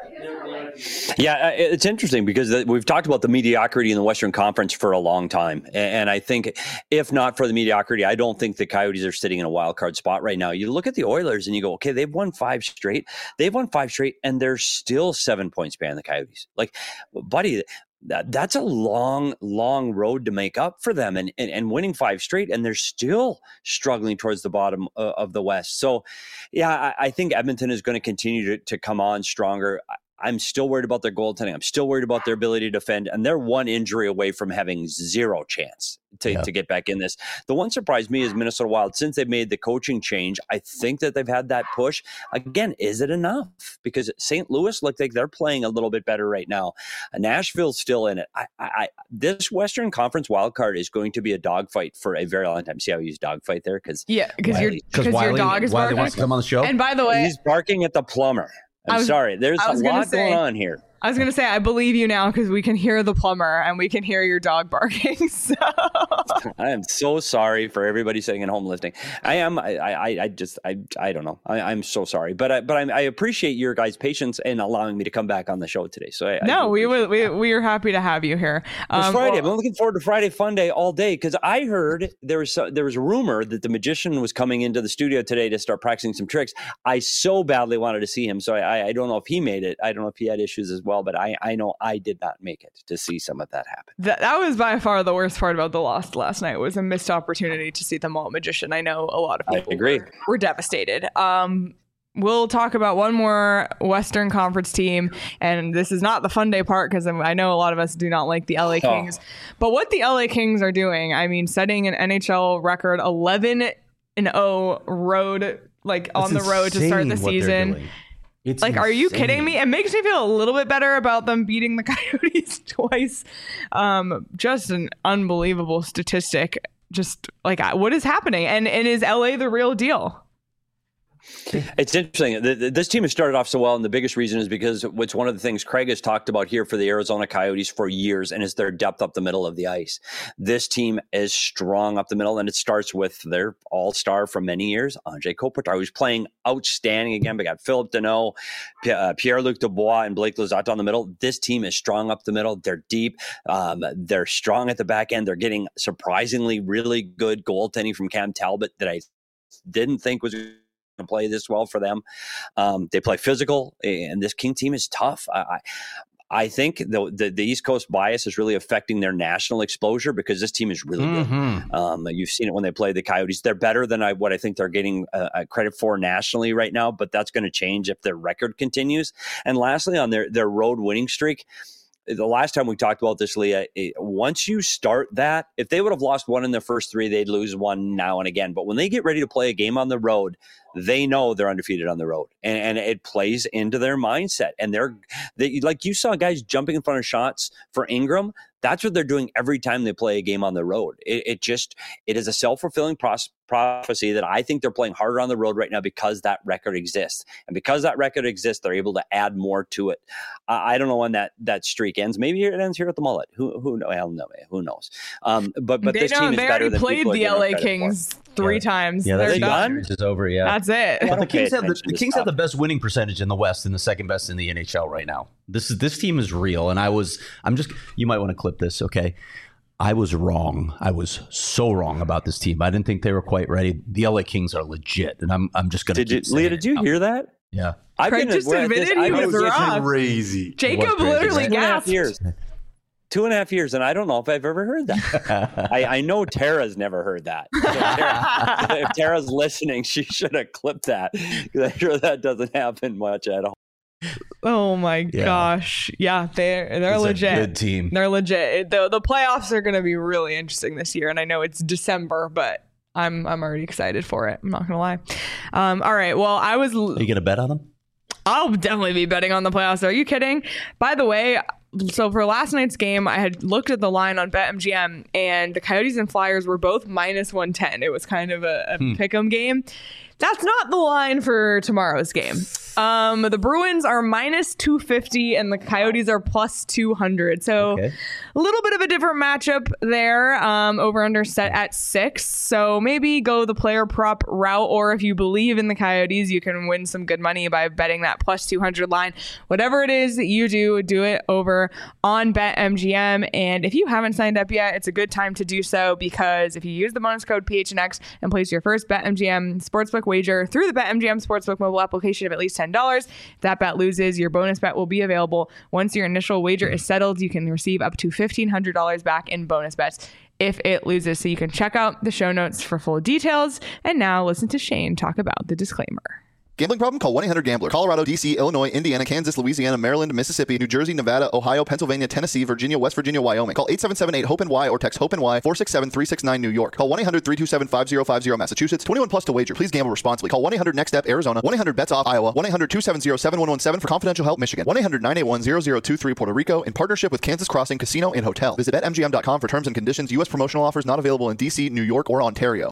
Yeah, it's interesting because we've talked about the mediocrity in the Western Conference for a long time. And I think if not for the mediocrity, I don't think the Coyotes are sitting in a wild card spot right now. You look at the Oilers and you go, okay, they've won 5 straight. And they're still 7 points behind the Coyotes. Like, buddy, that's a long, long road to make up for them and winning 5 straight. And they're still struggling towards the bottom of the West. So, yeah, I think Edmonton is going to continue to come on stronger. I'm still worried about their goaltending. I'm still worried about their ability to defend. And they're one injury away from having zero chance to get back in this. The one surprise me is Minnesota Wild. Since they've made the coaching change, I think that they've had that push. Again, is it enough? Because St. Louis look like they're playing a little bit better right now. Nashville's still in it. This Western Conference wild card is going to be a dogfight for a very long time. See how you use dogfight there? Because your dog is barking. Wants to come on the show. And by the way, he's barking at the plumber. I'm sorry. There's a lot going on here. I was going to say, I believe you now because we can hear the plumber and we can hear your dog barking. So I am so sorry for everybody sitting at home listening. I am. I don't know. I'm so sorry, but I appreciate your guys' patience and allowing me to come back on the show today. So we are happy to have you here. It's Friday. I'm looking forward to Friday Fun Day all day because I heard there was a rumor that the magician was coming into the studio today to start practicing some tricks. I so badly wanted to see him, so I don't know if he made it. I don't know if he had issues as well. But I know I did not make it to see some of that happen. That was by far the worst part about the loss last night was a missed opportunity to see the Malt Magician. I know a lot of people were devastated. We'll talk about one more Western Conference team, and this is not the fun day part because I know a lot of us do not like the LA Kings. But what the LA Kings are doing, I mean, setting an NHL record 11-0 road, on the road to start the season. It's like, insane. Are you kidding me? It makes me feel a little bit better about them beating the Coyotes twice. Just an unbelievable statistic. Just like, what is happening? And is LA the real deal? It's interesting. This team has started off so well, and the biggest reason is because it's one of the things Craig has talked about here for the Arizona Coyotes for years, and is their depth up the middle of the ice. This team is strong up the middle, and it starts with their all-star from many years, Anze Kopitar, who's playing outstanding again. We got Philip Deneau, Pierre-Luc Dubois, and Blake Lizotte on the middle. This team is strong up the middle. They're deep. They're strong at the back end. They're getting surprisingly really good goaltending from Cam Talbot that I didn't think was to play this well for them. They play physical, and this King team is tough. I think the East Coast bias is really affecting their national exposure because this team is really good. You've seen it when they play the Coyotes. They're better than what I think they're getting credit for nationally right now, but that's going to change if their record continues. And lastly, on their road winning streak, the last time we talked about this, Leah, once you start that, if they would have lost one in their first 3, they'd lose one now and again. But when they get ready to play a game on the road, they know they're undefeated on the road, and it plays into their mindset. And they like you saw guys jumping in front of shots for Ingram. That's what they're doing every time they play a game on the road. It is a self-fulfilling prophecy that I think they're playing harder on the road right now because that record exists. And because that record exists, they're able to add more to it. I don't know when that streak ends. Maybe it ends here at the Mullet. Who knows? Hell no, who knows? But this team is better than played the LA Kings 3 times. Yeah, they're done. Is over. Yeah, that's it. But the Kings have the best winning percentage in the West and the second best in the NHL right now. This team is real, and you might want to clip this, okay? I was wrong. I was so wrong about this team. I didn't think they were quite ready. The LA Kings are legit, and I'm just going to. Leah, did you hear that? Yeah, Craig just admitted he was wrong. Crazy. Jacob literally gasped. 2.5 years, and I don't know if I've ever heard that. I know Tara's never heard that. So if Tara's listening, she should have clipped that, because I'm sure that doesn't happen much at all. Oh my gosh. Yeah, they're legit. Good team. They're legit. The playoffs are going to be really interesting this year, and I know it's December, but I'm already excited for it. I'm not going to lie. All right. Well, Are you going to bet on them? I'll definitely be betting on the playoffs. Are you kidding? By the way, so for last night's game, I had looked at the line on BetMGM, and the Coyotes and Flyers were both minus 110. It was kind of a pick'em game. That's not the line for tomorrow's game. The Bruins are minus 250 and the Coyotes are plus 200. So a little bit of a different matchup there. Over under set at 6. So maybe go the player prop route, or if you believe in the Coyotes, you can win some good money by betting that plus 200 line. Whatever it is that you do it over on BetMGM. And if you haven't signed up yet, it's a good time to do so, because if you use the bonus code PHNX and place your first BetMGM sportsbook wager through the BetMGM Sportsbook mobile application of at least $10. If that bet loses, your bonus bet will be available. Once your initial wager is settled, you can receive up to $1,500 back in bonus bets if it loses. So you can check out the show notes for full details. And now listen to Shane talk about the disclaimer. Gambling problem? Call 1-800-GAMBLER. Colorado, D.C., Illinois, Indiana, Kansas, Louisiana, Maryland, Mississippi, New Jersey, Nevada, Ohio, Pennsylvania, Tennessee, Virginia, West Virginia, Wyoming. Call 877-8-HOPE-NY or text HOPE-NY 467-369 New York. Call 1-800-327-5050 Massachusetts. 21 plus to wager. Please gamble responsibly. Call 1-800-NEXT-STEP Arizona. 1-800-BETS-OFF Iowa. 1-800-270-7117 for confidential help Michigan. 1-800-981-0023 Puerto Rico in partnership with Kansas Crossing Casino and Hotel. Visit BetMGM.com for terms and conditions. U.S. promotional offers not available in D.C., New York, or Ontario.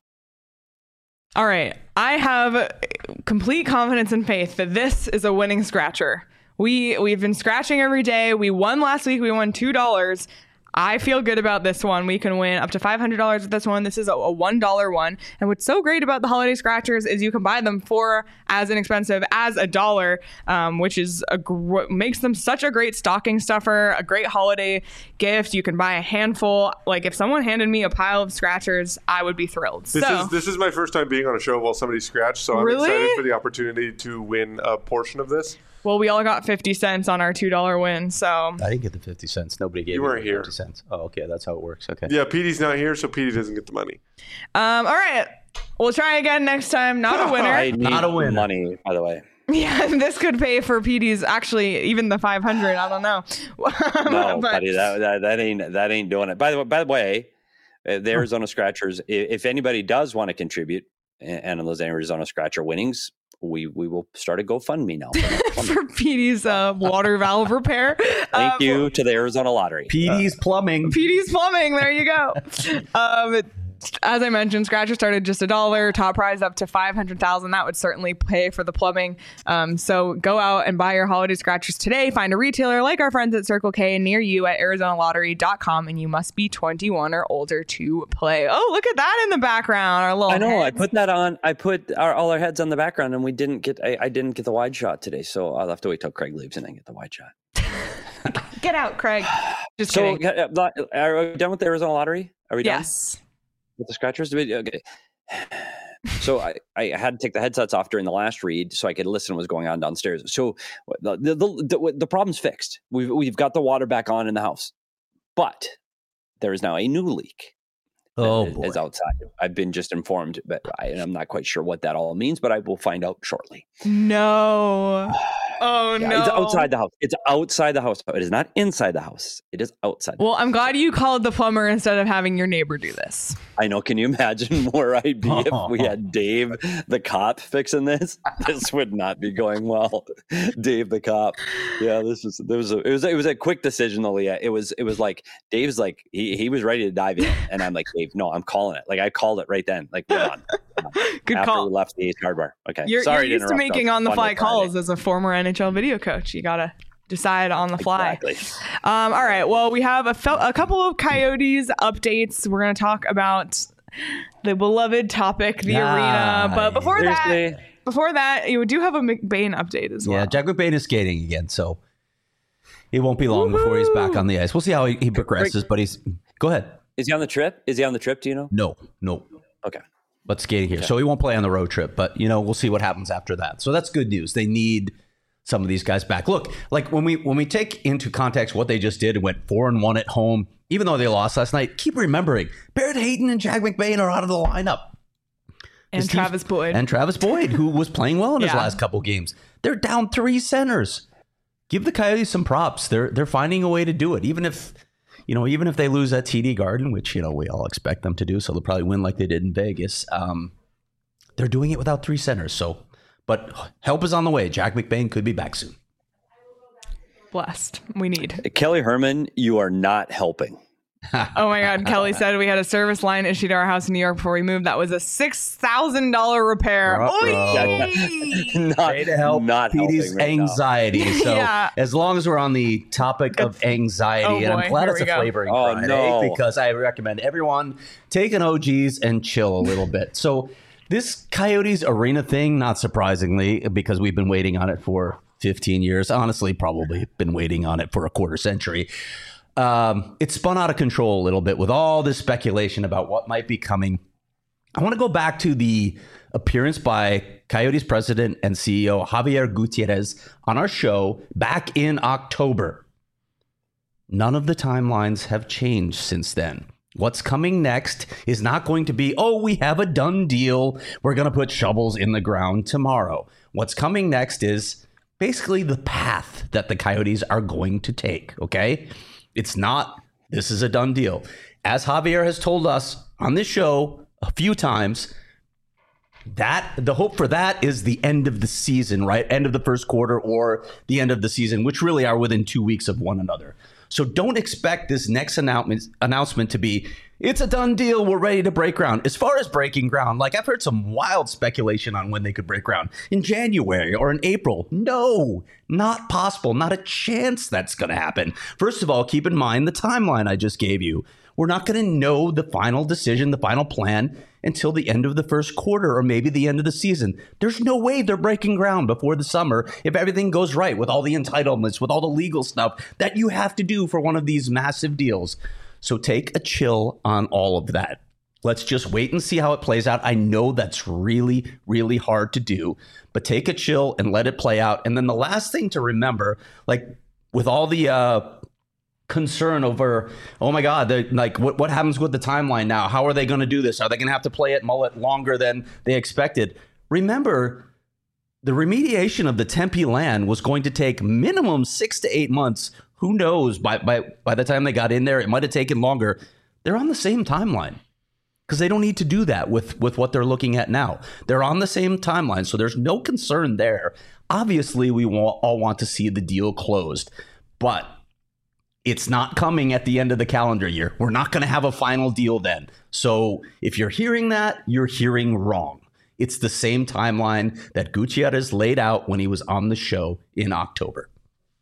All right. I have complete confidence and faith that this is a winning scratcher. We've been scratching every day. We won last week. We won $2. I feel good about this one. We can win up to $500 with this one. This is a $1 one. And what's so great about the holiday scratchers is you can buy them for as inexpensive as $1, which is makes them such a great stocking stuffer, a great holiday gift. You can buy a handful. Like if someone handed me a pile of scratchers, I would be thrilled. This is my first time being on a show while somebody scratched, so I'm excited for the opportunity to win a portion of this. Well, we all got 50 cents on our $2 win, so... I didn't get the 50 cents. Nobody gave me 50 cents. Oh, okay. That's how it works. Okay. Yeah, Petey's not here, so Petey doesn't get the money. All right. We'll try again next time. Not a winner. I need not a winner. Money, by the way. Yeah, this could pay for Petey's, actually, even the 500. I don't know. No, buddy, that ain't doing it. By the way, the Arizona Scratchers, if anybody does want to contribute, and those Arizona Scratcher winnings, we will start a GoFundMe now for Petey's water valve repair. Thank you to the Arizona Lottery. Petey's Plumbing. Petey's Plumbing. There you go. As I mentioned, Scratcher started just $1. Top prize up to $500,000. That would certainly pay for the plumbing. So go out and buy your holiday scratchers today. Find a retailer like our friends at Circle K near you at ArizonaLottery.com, and you must be 21 or older to play. Oh, look at that in the background. Our little. I know. Heads. I put that on. I put all our heads on the background, and we didn't get. I didn't get the wide shot today, so I'll have to wait till Craig leaves and then get the wide shot. Get out, Craig. Just so, kidding. Are we done with the Arizona Lottery? Are we done? Yes. With the scratchers? Okay. So I had to take the headsets off during the last read so I could listen to what's going on downstairs. So the problem's fixed. We've got the water back on in the house, but there is now a new leak. Is outside. I've been just informed, but I'm not quite sure what that all means, but I will find out shortly. No. Oh, yeah, no. It's outside the house. It's outside the house. It is not inside the house. It is outside. Well, I'm glad you called the plumber instead of having your neighbor do this. I know. Can you imagine where I'd be if we had Dave, the cop, fixing this? This would not be going well. Dave, the cop. Yeah, it was a quick decision, though, Leah. It was like Dave's like he was ready to dive in, and I'm like, Dave, no, I'm calling it. Like I called it right then. Like we're done. Good after call. we left the Ace Hardware. Okay. You're used to making on the fly calls as a former NHL video coach. You gotta decide on the fly. Exactly. All right. Well, we have a couple of Coyotes updates. We're gonna talk about the beloved topic, the arena. But before that, you do have a McBain update as well. Yeah, Jack McBain is skating again, so it won't be long before he's back on the ice. We'll see how he progresses. But go ahead. Is he on the trip? Do you know? No. Okay. But skating here. Okay. So he won't play on the road trip, but we'll see what happens after that. So that's good news. They need some of these guys back. Look, like when we take into context what they just did and went 4-1 at home, even though they lost last night, keep remembering Barrett Hayton and Jack McBain are out of the lineup. And Travis Boyd. And Travis Boyd, who was playing well in his last couple games. They're down 3 centers. Give the Coyotes some props. They're finding a way to do it. Even if they lose at TD Garden, which, we all expect them to do, so they'll probably win like they did in Vegas. They're doing it without 3 centers. But help is on the way. Jack McBain could be back soon. Blessed. We need. Kelly Herman, you are not helping. Oh my God. Kelly said we had a service line issued to our house in New York before we moved. That was a $6,000 repair. To help Petey's anxiety. Right so as long as we're on the topic of anxiety, and I'm glad it's a flavoring Friday because I recommend everyone take an OGs and chill a little bit. So this Coyotes Arena thing, not surprisingly, because we've been waiting on it for 15 years, honestly, probably been waiting on it for a quarter century. It spun out of control a little bit with all this speculation about what might be coming. I want to go back to the appearance by Coyotes president and CEO Javier Gutierrez on our show back in October. None of the timelines have changed since then. What's coming next is not going to be, we have a done deal. We're going to put shovels in the ground tomorrow. What's coming next is basically the path that the Coyotes are going to take, okay? It's not, this is a done deal. As Javier has told us on this show a few times, that the hope for that is the end of the season, right? End of the first quarter or the end of the season, which really are within 2 weeks of one another. So don't expect this next announcement to be, it's a done deal, we're ready to break ground. As far as breaking ground, like I've heard some wild speculation on when they could break ground. In January or in April. No, not possible. Not a chance that's going to happen. First of all, keep in mind the timeline I just gave you. We're not going to know the final decision, the final plan, until the end of the first quarter or maybe the end of the season. There's no way they're breaking ground before the summer if everything goes right with all the entitlements, with all the legal stuff that you have to do for one of these massive deals. So take a chill on all of that. Let's just wait and see how it plays out. I know that's really, really hard to do, but take a chill and let it play out. And then the last thing to remember, like with all the concern over, oh my God, like what happens with the timeline now? How are they going to do this? Are they going to have to play it mullet longer than they expected? Remember, the remediation of the Tempe land was going to take minimum 6 to 8 months. Who knows? By the time they got in there, it might have taken longer. They're on the same timeline because they don't need to do that with what they're looking at now. They're on the same timeline, so there's no concern there. Obviously, we all want to see the deal closed, but it's not coming at the end of the calendar year. We're not going to have a final deal then. So if you're hearing that, you're hearing wrong. It's the same timeline that Gutierrez laid out when he was on the show in October.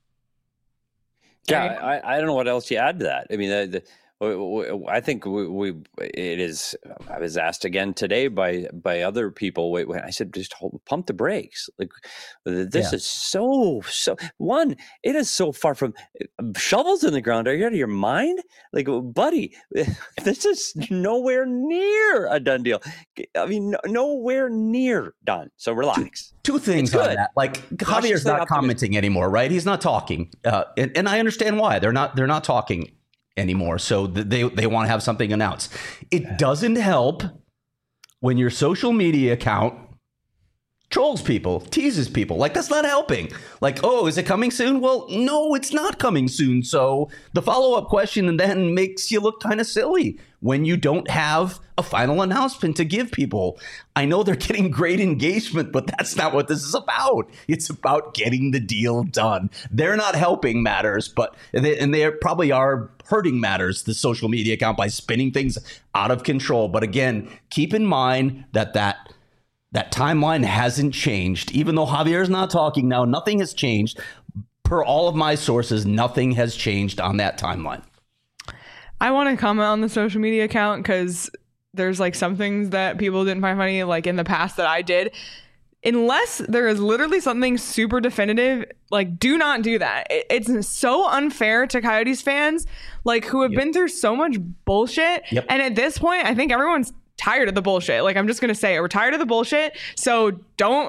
Yeah, I don't know what else you add to that. I mean, I think it is. I was asked again today by other people. When I said, just pump the brakes. Like this is so. One, it is so far from shovels in the ground. Are you out of your mind? Like, buddy, this is nowhere near a done deal. I mean, nowhere near done. So relax. Two things on that. Like Javier's not commenting anymore, right? He's not talking, and I understand why they're not talking anymore. So they want to have something announced. It doesn't help when your social media account trolls people, teases people. Like, that's not helping. Like, oh, is it coming soon? Well, no, it's not coming soon. So the follow-up question then makes you look kind of silly when you don't have a final announcement to give people. I know they're getting great engagement, but that's not what this is about. It's about getting the deal done. They're not helping matters, but they probably are hurting matters, the social media account, by spinning things out of control. But again, keep in mind that timeline hasn't changed. Even though Javier's not talking now, nothing has changed. Per all of my sources, nothing has changed on that timeline. I want to comment on the social media account because there's like some things that people didn't find funny, like in the past that I did. Unless there is literally something super definitive, like, do not do that. It's so unfair to Coyotes fans, like, who have been through so much bullshit. And at this point, I think everyone's tired of the bullshit. Like, I'm just going to say it. We're tired of the bullshit. So don't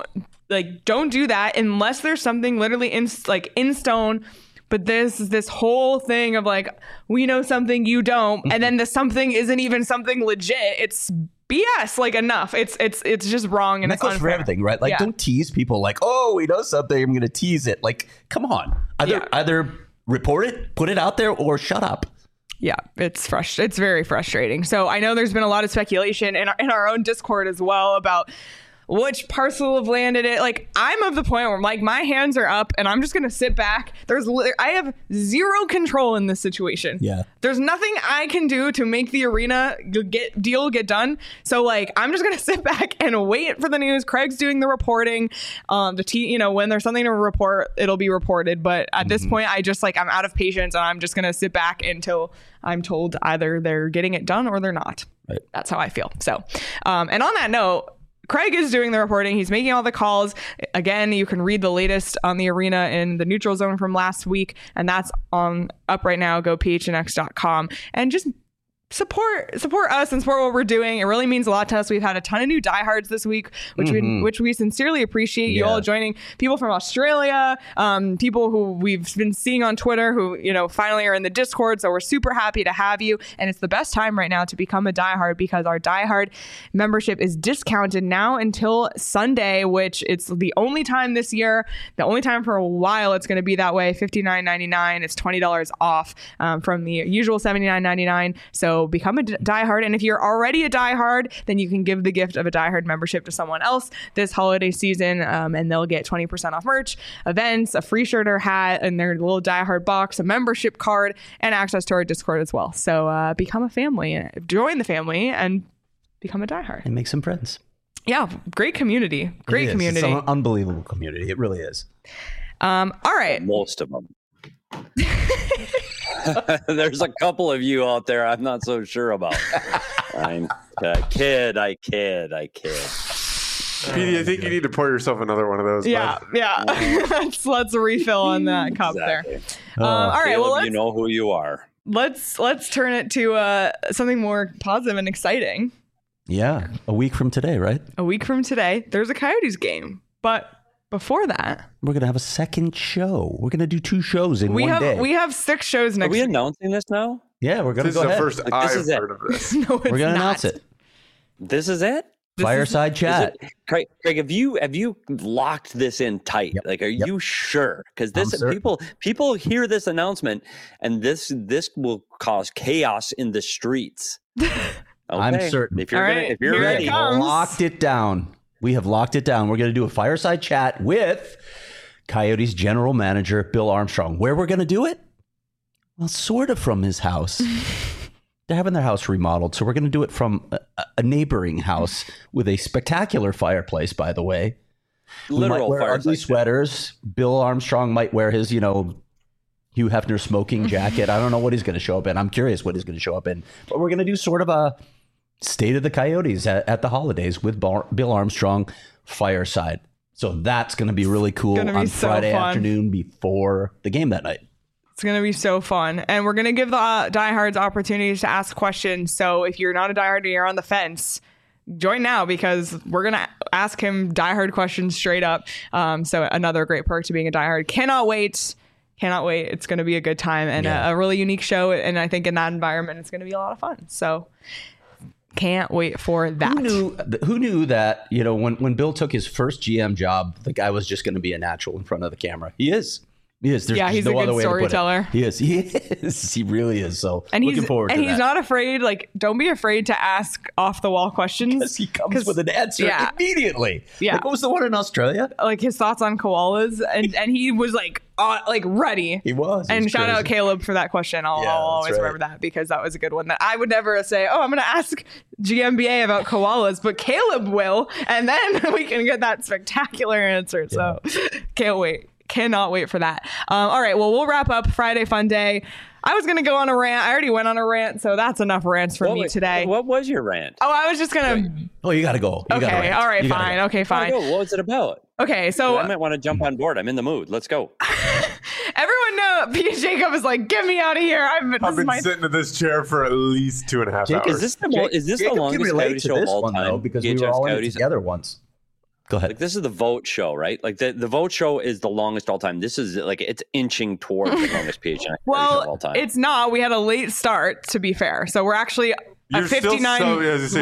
Like, don't do that unless there's something literally in stone. But this whole thing of like, we know something you don't, and then the something isn't even something legit. It's BS. Like, enough. It's just wrong, and that it's goes unfair. for everything, right? Like, don't tease people like, oh, we know something, I'm going to tease it. Like, come on. Either report it, put it out there, or shut up. Yeah, it's very frustrating. So I know there's been a lot of speculation in our own Discord as well about which parcel of land it is. Like, I'm of the point where like my hands are up and I'm just gonna sit back. I have zero control in this situation. Yeah, there's nothing I can do to make the arena get done. So like, I'm just gonna sit back and wait for the news. Craig's doing the reporting. When there's something to report, it'll be reported. But at this point, I'm out of patience, and I'm just gonna sit back until I'm told either they're getting it done or they're not. Right. That's how I feel. So, and on that note, Craig is doing the reporting. He's making all the calls. Again, you can read the latest on the arena in the neutral zone from last week, and that's up right now. Go phnx.com and just support us and support what we're doing. It really means a lot to us. We've had a ton of new diehards this week, which we sincerely appreciate. You all joining. People from Australia, people who we've been seeing on Twitter, who finally are in the Discord. So we're super happy to have you, and it's the best time right now to become a diehard, because our diehard membership is discounted now until Sunday, which it's the only time this year, the only time for a while it's going to be that way. $59.99. It's $20 off from the usual $79.99. So become a diehard, and if you're already a diehard, then you can give the gift of a diehard membership to someone else this holiday season, and they'll get 20% off merch, events, a free shirt or hat, and their little diehard box, a membership card, and access to our Discord as well. So become a family, join the family, and become a diehard, and make some friends. Yeah, great community. It's an unbelievable community. It really is. All right, most of them. There's a couple of you out there I'm not so sure about. I kid. PD, I think you need to pour yourself another one of those. Yeah. let's refill on that cup there. All right, Caleb, well, you know who you are. Let's turn it to something more positive and exciting. Yeah, a week from today, right? A week from today, there's a Coyotes game, but before that, we're going to have a second show. We're going to do 2 shows in one day. We have 6 shows next week. Are we announcing this now? Yeah, we're going to go ahead. This is the first I've heard of this. No, it's we're going to announce it. This is it? Fireside chat. Craig, have you locked this in tight? Yep. Like, are you sure? Because people hear this announcement, and this will cause chaos in the streets. Okay. I'm certain. If you're ready, locked it down. We have locked it down. We're going to do a fireside chat with Coyotes general manager Bill Armstrong. Where we're going to do it? Well, sort of from his house. They're having their house remodeled, so we're going to do it from a neighboring house with a spectacular fireplace, by the way. Literal wear ugly sweaters. Bill Armstrong might wear his, Hugh Hefner smoking jacket. I don't know what he's going to show up in. I'm curious what he's going to show up in. But we're going to do sort of a State of the Coyotes at the holidays with Bill Armstrong fireside. So that's going to be really cool on Friday afternoon before the game that night. It's going to be so fun. And we're going to give the diehards opportunities to ask questions. So if you're not a diehard and you're on the fence, join now, because we're going to ask him diehard questions straight up. So another great perk to being a diehard. Cannot wait. It's going to be a good time and a really unique show. And I think in that environment, it's going to be a lot of fun. So can't wait for that. Who knew that, when Bill took his first GM job, the guy was just going to be a natural in front of the camera. He is. He's no a good storyteller. He is. He really is. So and looking forward to that. And he's not afraid. Like, don't be afraid to ask off the wall questions. Because he comes with an answer immediately. Yeah. Like, what was the one in Australia? Like his thoughts on koalas, and he was like ready. He was. And shout out Caleb for that question. I'll always remember that, because that was a good one that I would never say, I'm going to ask GMBA about koalas, but Caleb will, and then we can get that spectacular answer. So can't wait. Cannot wait for that. All right, well, we'll wrap up Friday Fun Day. I was going to go on a rant. I already went on a rant, so that's enough rants for me today. What was your rant? Oh, I was just going to... Oh, you got to go. Okay, all right, fine. Okay, fine. What was it about? Okay, so... I might want to jump on board. I'm in the mood. Let's go. Everyone know Pete Jacob is like, get me out of here. I've been sitting in this chair for at least 2.5 hours. Is this the longest Coyote show of all time? Though, because we were all in it together once. Go ahead. Like, this is the vote show, right? Like the vote show is the longest all time. This is like it's inching towards the longest PHNX show of all time. It's not. We had a late start, to be fair. So we're actually at 59.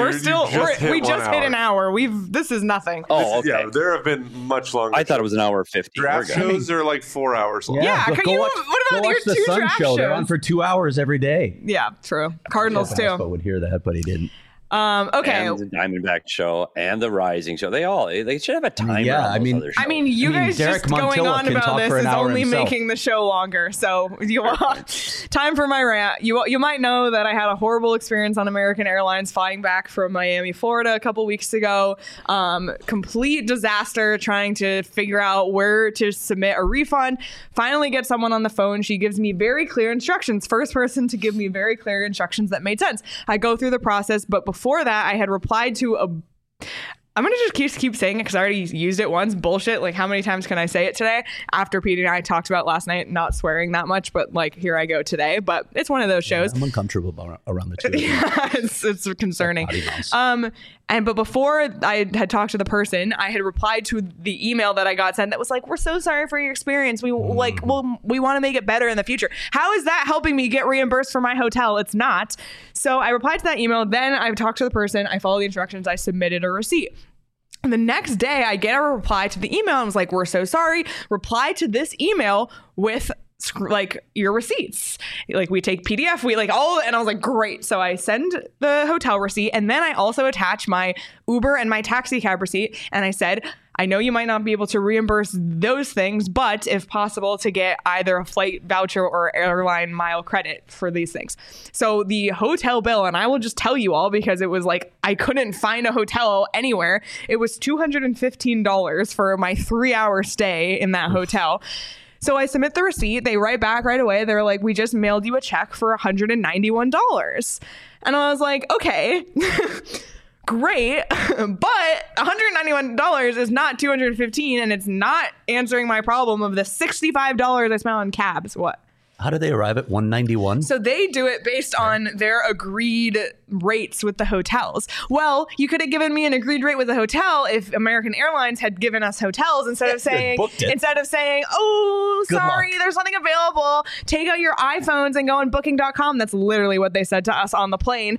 We just hit an hour. This is nothing. Oh, okay. Yeah, there have been much longer. I thought it was an hour 50. Draft shows are like 4 hours long. Yeah, what about your two draft shows? They're on for 2 hours every day. Yeah, true. Cardinals too. Espo would hear that, but he didn't. Okay. And the Diamondback show and the Rising show. They should have a timer. Yeah, on those other shows. You guys Derek just going Montilla on can about talk this for an is hour only himself. making the show longer. So time for my rant. You might know that I had a horrible experience on American Airlines flying back from Miami, Florida a couple weeks ago. Complete disaster trying to figure out where to submit a refund. Finally get someone on the phone. She gives me very clear instructions. First person to give me very clear instructions that made sense. I go through the process, but before that I had replied to I'm going to just keep saying it because I already used it once. Bullshit. Like, how many times can I say it today? After Pete and I talked about last night, not swearing that much, but like, here I go today. But it's one of those shows. I'm uncomfortable around the two of you. Yeah, it's concerning. But before I had talked to the person, I had replied to the email that I got sent that was like, "We're so sorry for your experience. We want to make it better in the future." How is that helping me get reimbursed for my hotel? It's not. So I replied to that email. Then I talked to the person. I followed the instructions. I submitted a receipt. And the next day I get a reply to the email and was like, "We're so sorry. Reply to this email with like your receipts. Like, we take PDF, we like all," and I was like, great. So I send the hotel receipt, and then I also attach my Uber and my taxi cab receipt. And I said, "I know you might not be able to reimburse those things, but if possible, to get either a flight voucher or airline mile credit for these things." So the hotel bill, and I will just tell you all because it was like, I couldn't find a hotel anywhere. It was $215 for my 3-hour stay in that hotel. So I submit the receipt. They write back right away. They're like, "We just mailed you a check for $191. And I was like, okay, great. But $191 is not $215, and it's not answering my problem of the $65 I spent on cabs. What? How do they arrive at 191? So they do it based on their agreed rates with the hotels. Well, you could have given me an agreed rate with a hotel if American Airlines had given us hotels instead of saying, "Oh, sorry, there's nothing available. Take out your iPhones and go on booking.com." That's literally what they said to us on the plane.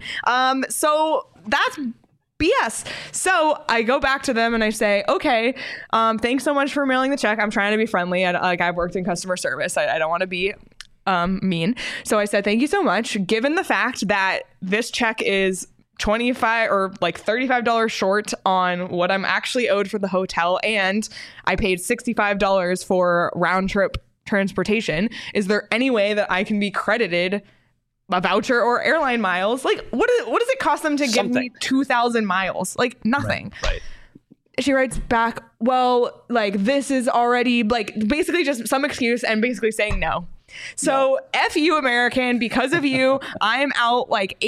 So that's BS. So I go back to them and I say, "Okay, thanks so much for mailing the check. I'm trying to be friendly. I've worked in customer service. I don't want to be mean." So I said, "Thank you so much. Given the fact that this check is $25 or like $35 short on what I'm actually owed for the hotel, and I paid $65 for round trip transportation, is there any way that I can be credited a voucher or airline miles? Like, what does it cost them to give me 2,000 miles? Like, nothing." Right. She writes back, "Well, like, this is already," like, basically just some excuse and basically saying no. So F you, American. Because of you, I'm out like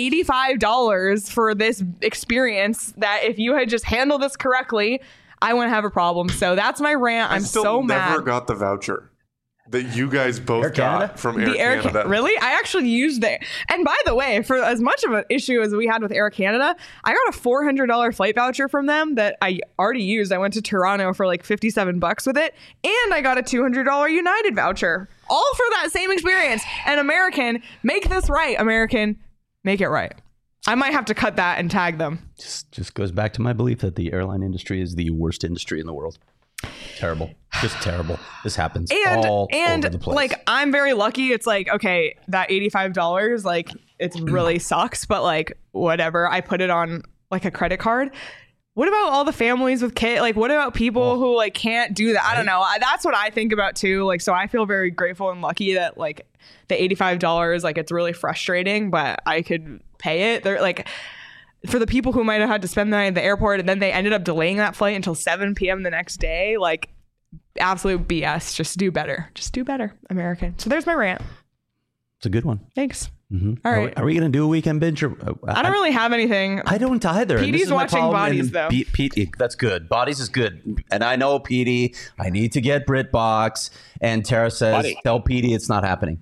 $85 for this experience that if you had just handled this correctly, I wouldn't have a problem. So that's my rant. I'm so mad. I never got the voucher that you guys both got from Air Canada. Really? I actually used it. And by the way, for as much of an issue as we had with Air Canada, I got a $400 flight voucher from them that I already used. I went to Toronto for like $57 with it. And I got a $200 United voucher. All for that same experience. And American, make this right. American, make it right. I might have to cut that and tag them. Just goes back to my belief that the airline industry is the worst industry in the world. Terrible. Just terrible. This happens all over the place. Like, I'm very lucky. It's like, okay, that $85, like, it really sucks, but like, whatever. I put it on like a credit card. What about all the families with kids? Like, what about people who like can't do that? I don't know. That's what I think about too. Like, so I feel very grateful and lucky that like the $85, like, it's really frustrating, but I could pay it. They're like, for the people who might have had to spend the night at the airport and then they ended up delaying that flight until 7 p.m. the next day, like, absolute BS. Just do better. Just do better, American. So there's my rant. It's a good one. Thanks. Mm-hmm. All right. Are we going to do a weekend binge? I don't really have anything. I don't either. Petey's watching Bodies, though. Pete, that's good. Bodies is good. And I know, Petey, I need to get BritBox. And Tara says, tell Petey it's not happening.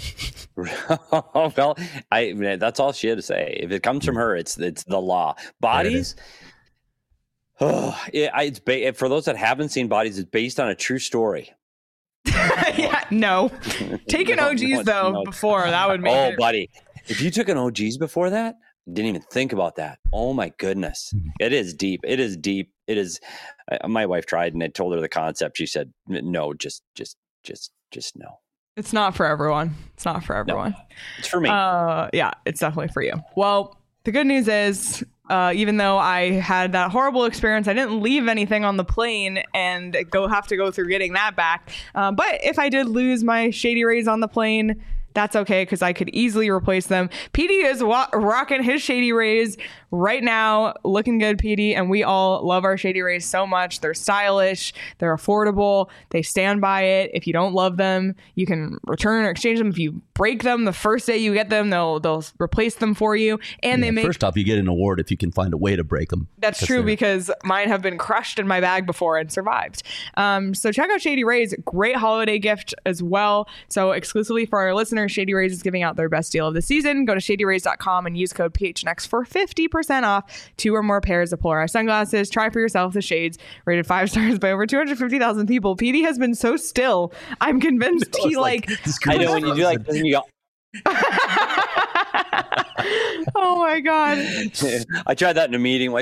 Well, that's all she had to say. If it comes from her, it's the law. Bodies. It's for those that haven't seen Bodies, it's based on a true story. Yeah, no. Take an OGs though before that would make it. Buddy, if you took an OGs before that, didn't even think about that. Oh my goodness, it is deep. It is deep. It is. My wife tried, and I told her the concept. She said, "No, just no." It's not for everyone. It's not for everyone. No, it's for me. Yeah, it's definitely for you. Well, the good news is, even though I had that horrible experience, I didn't leave anything on the plane and have to go through getting that back. But if I did lose my Shady Rays on the plane, that's okay, because I could easily replace them. PD is rocking his Shady Rays right now. Looking good, PD. And we all love our Shady Rays so much. They're stylish. They're affordable. They stand by it. If you don't love them, you can return or exchange them. If you break them the first day you get them, they'll replace them for you. And they make... First off, you get an award if you can find a way to break them. That's true, because mine have been crushed in my bag before and survived. So check out Shady Rays. Great holiday gift as well. So exclusively for our listeners, Shady Rays is giving out their best deal of the season. Go to shadyrays.com and use code PHNX for 50% off 2 or more pairs of polarized sunglasses. Try for yourself the shades, rated 5 stars by over 250,000 people. PD has been so still. I'm convinced he I know when you do like this and you go. Oh my god. I tried that in a meeting.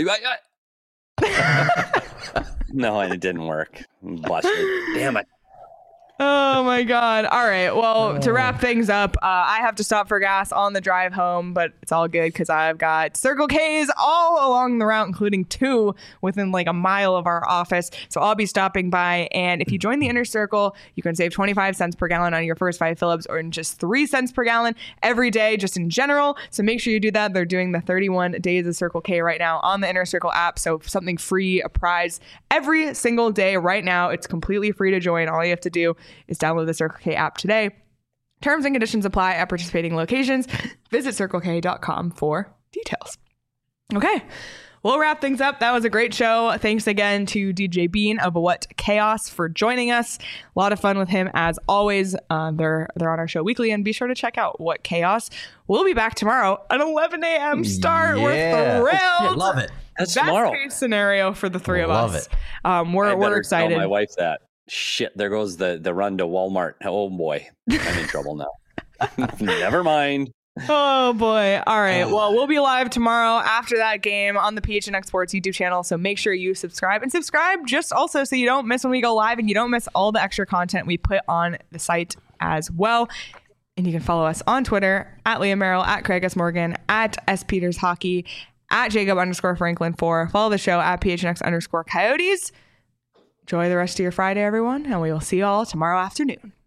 No, it didn't work. Busted. Damn it. Oh my god. All right. Well, to wrap things up, I have to stop for gas on the drive home, but it's all good because I've got Circle K's all along the route, including 2 within like a mile of our office. So I'll be stopping by. And if you join the Inner Circle, you can save 25 cents per gallon on your first 5 fill-ups, or in just 3 cents per gallon every day, just in general. So make sure you do that. They're doing the 31 days of Circle K right now on the Inner Circle app. So something free, a prize every single day right now. It's completely free to join. All you have to do is download the Circle K app today. Terms and conditions apply at participating locations. Visit CircleK.com for details. Okay, we'll wrap things up. That was a great show. Thanks again to DJ Bean of What Chaos for joining us. A lot of fun with him as always. They're on our show weekly, and be sure to check out What Chaos. We'll be back tomorrow at 11 a.m. start. Yeah. We're thrilled. Love it. That's Best tomorrow. case scenario for the 3 of Love us. it. We're excited. Tell my wife that. Shit, there goes the run to Walmart. Oh boy, I'm in trouble now. Never mind. Oh boy. All right. Well, we'll be live tomorrow after that game on the PHNX Sports YouTube channel. So make sure you subscribe just also so you don't miss when we go live and you don't miss all the extra content we put on the site as well. And you can follow us on Twitter at Liam Merrill, at Craig S. Morgan, at S. Peters Hockey, at Jacob_Franklin4. Follow the show at PHNX_Coyotes. Enjoy the rest of your Friday, everyone, and we will see you all tomorrow afternoon.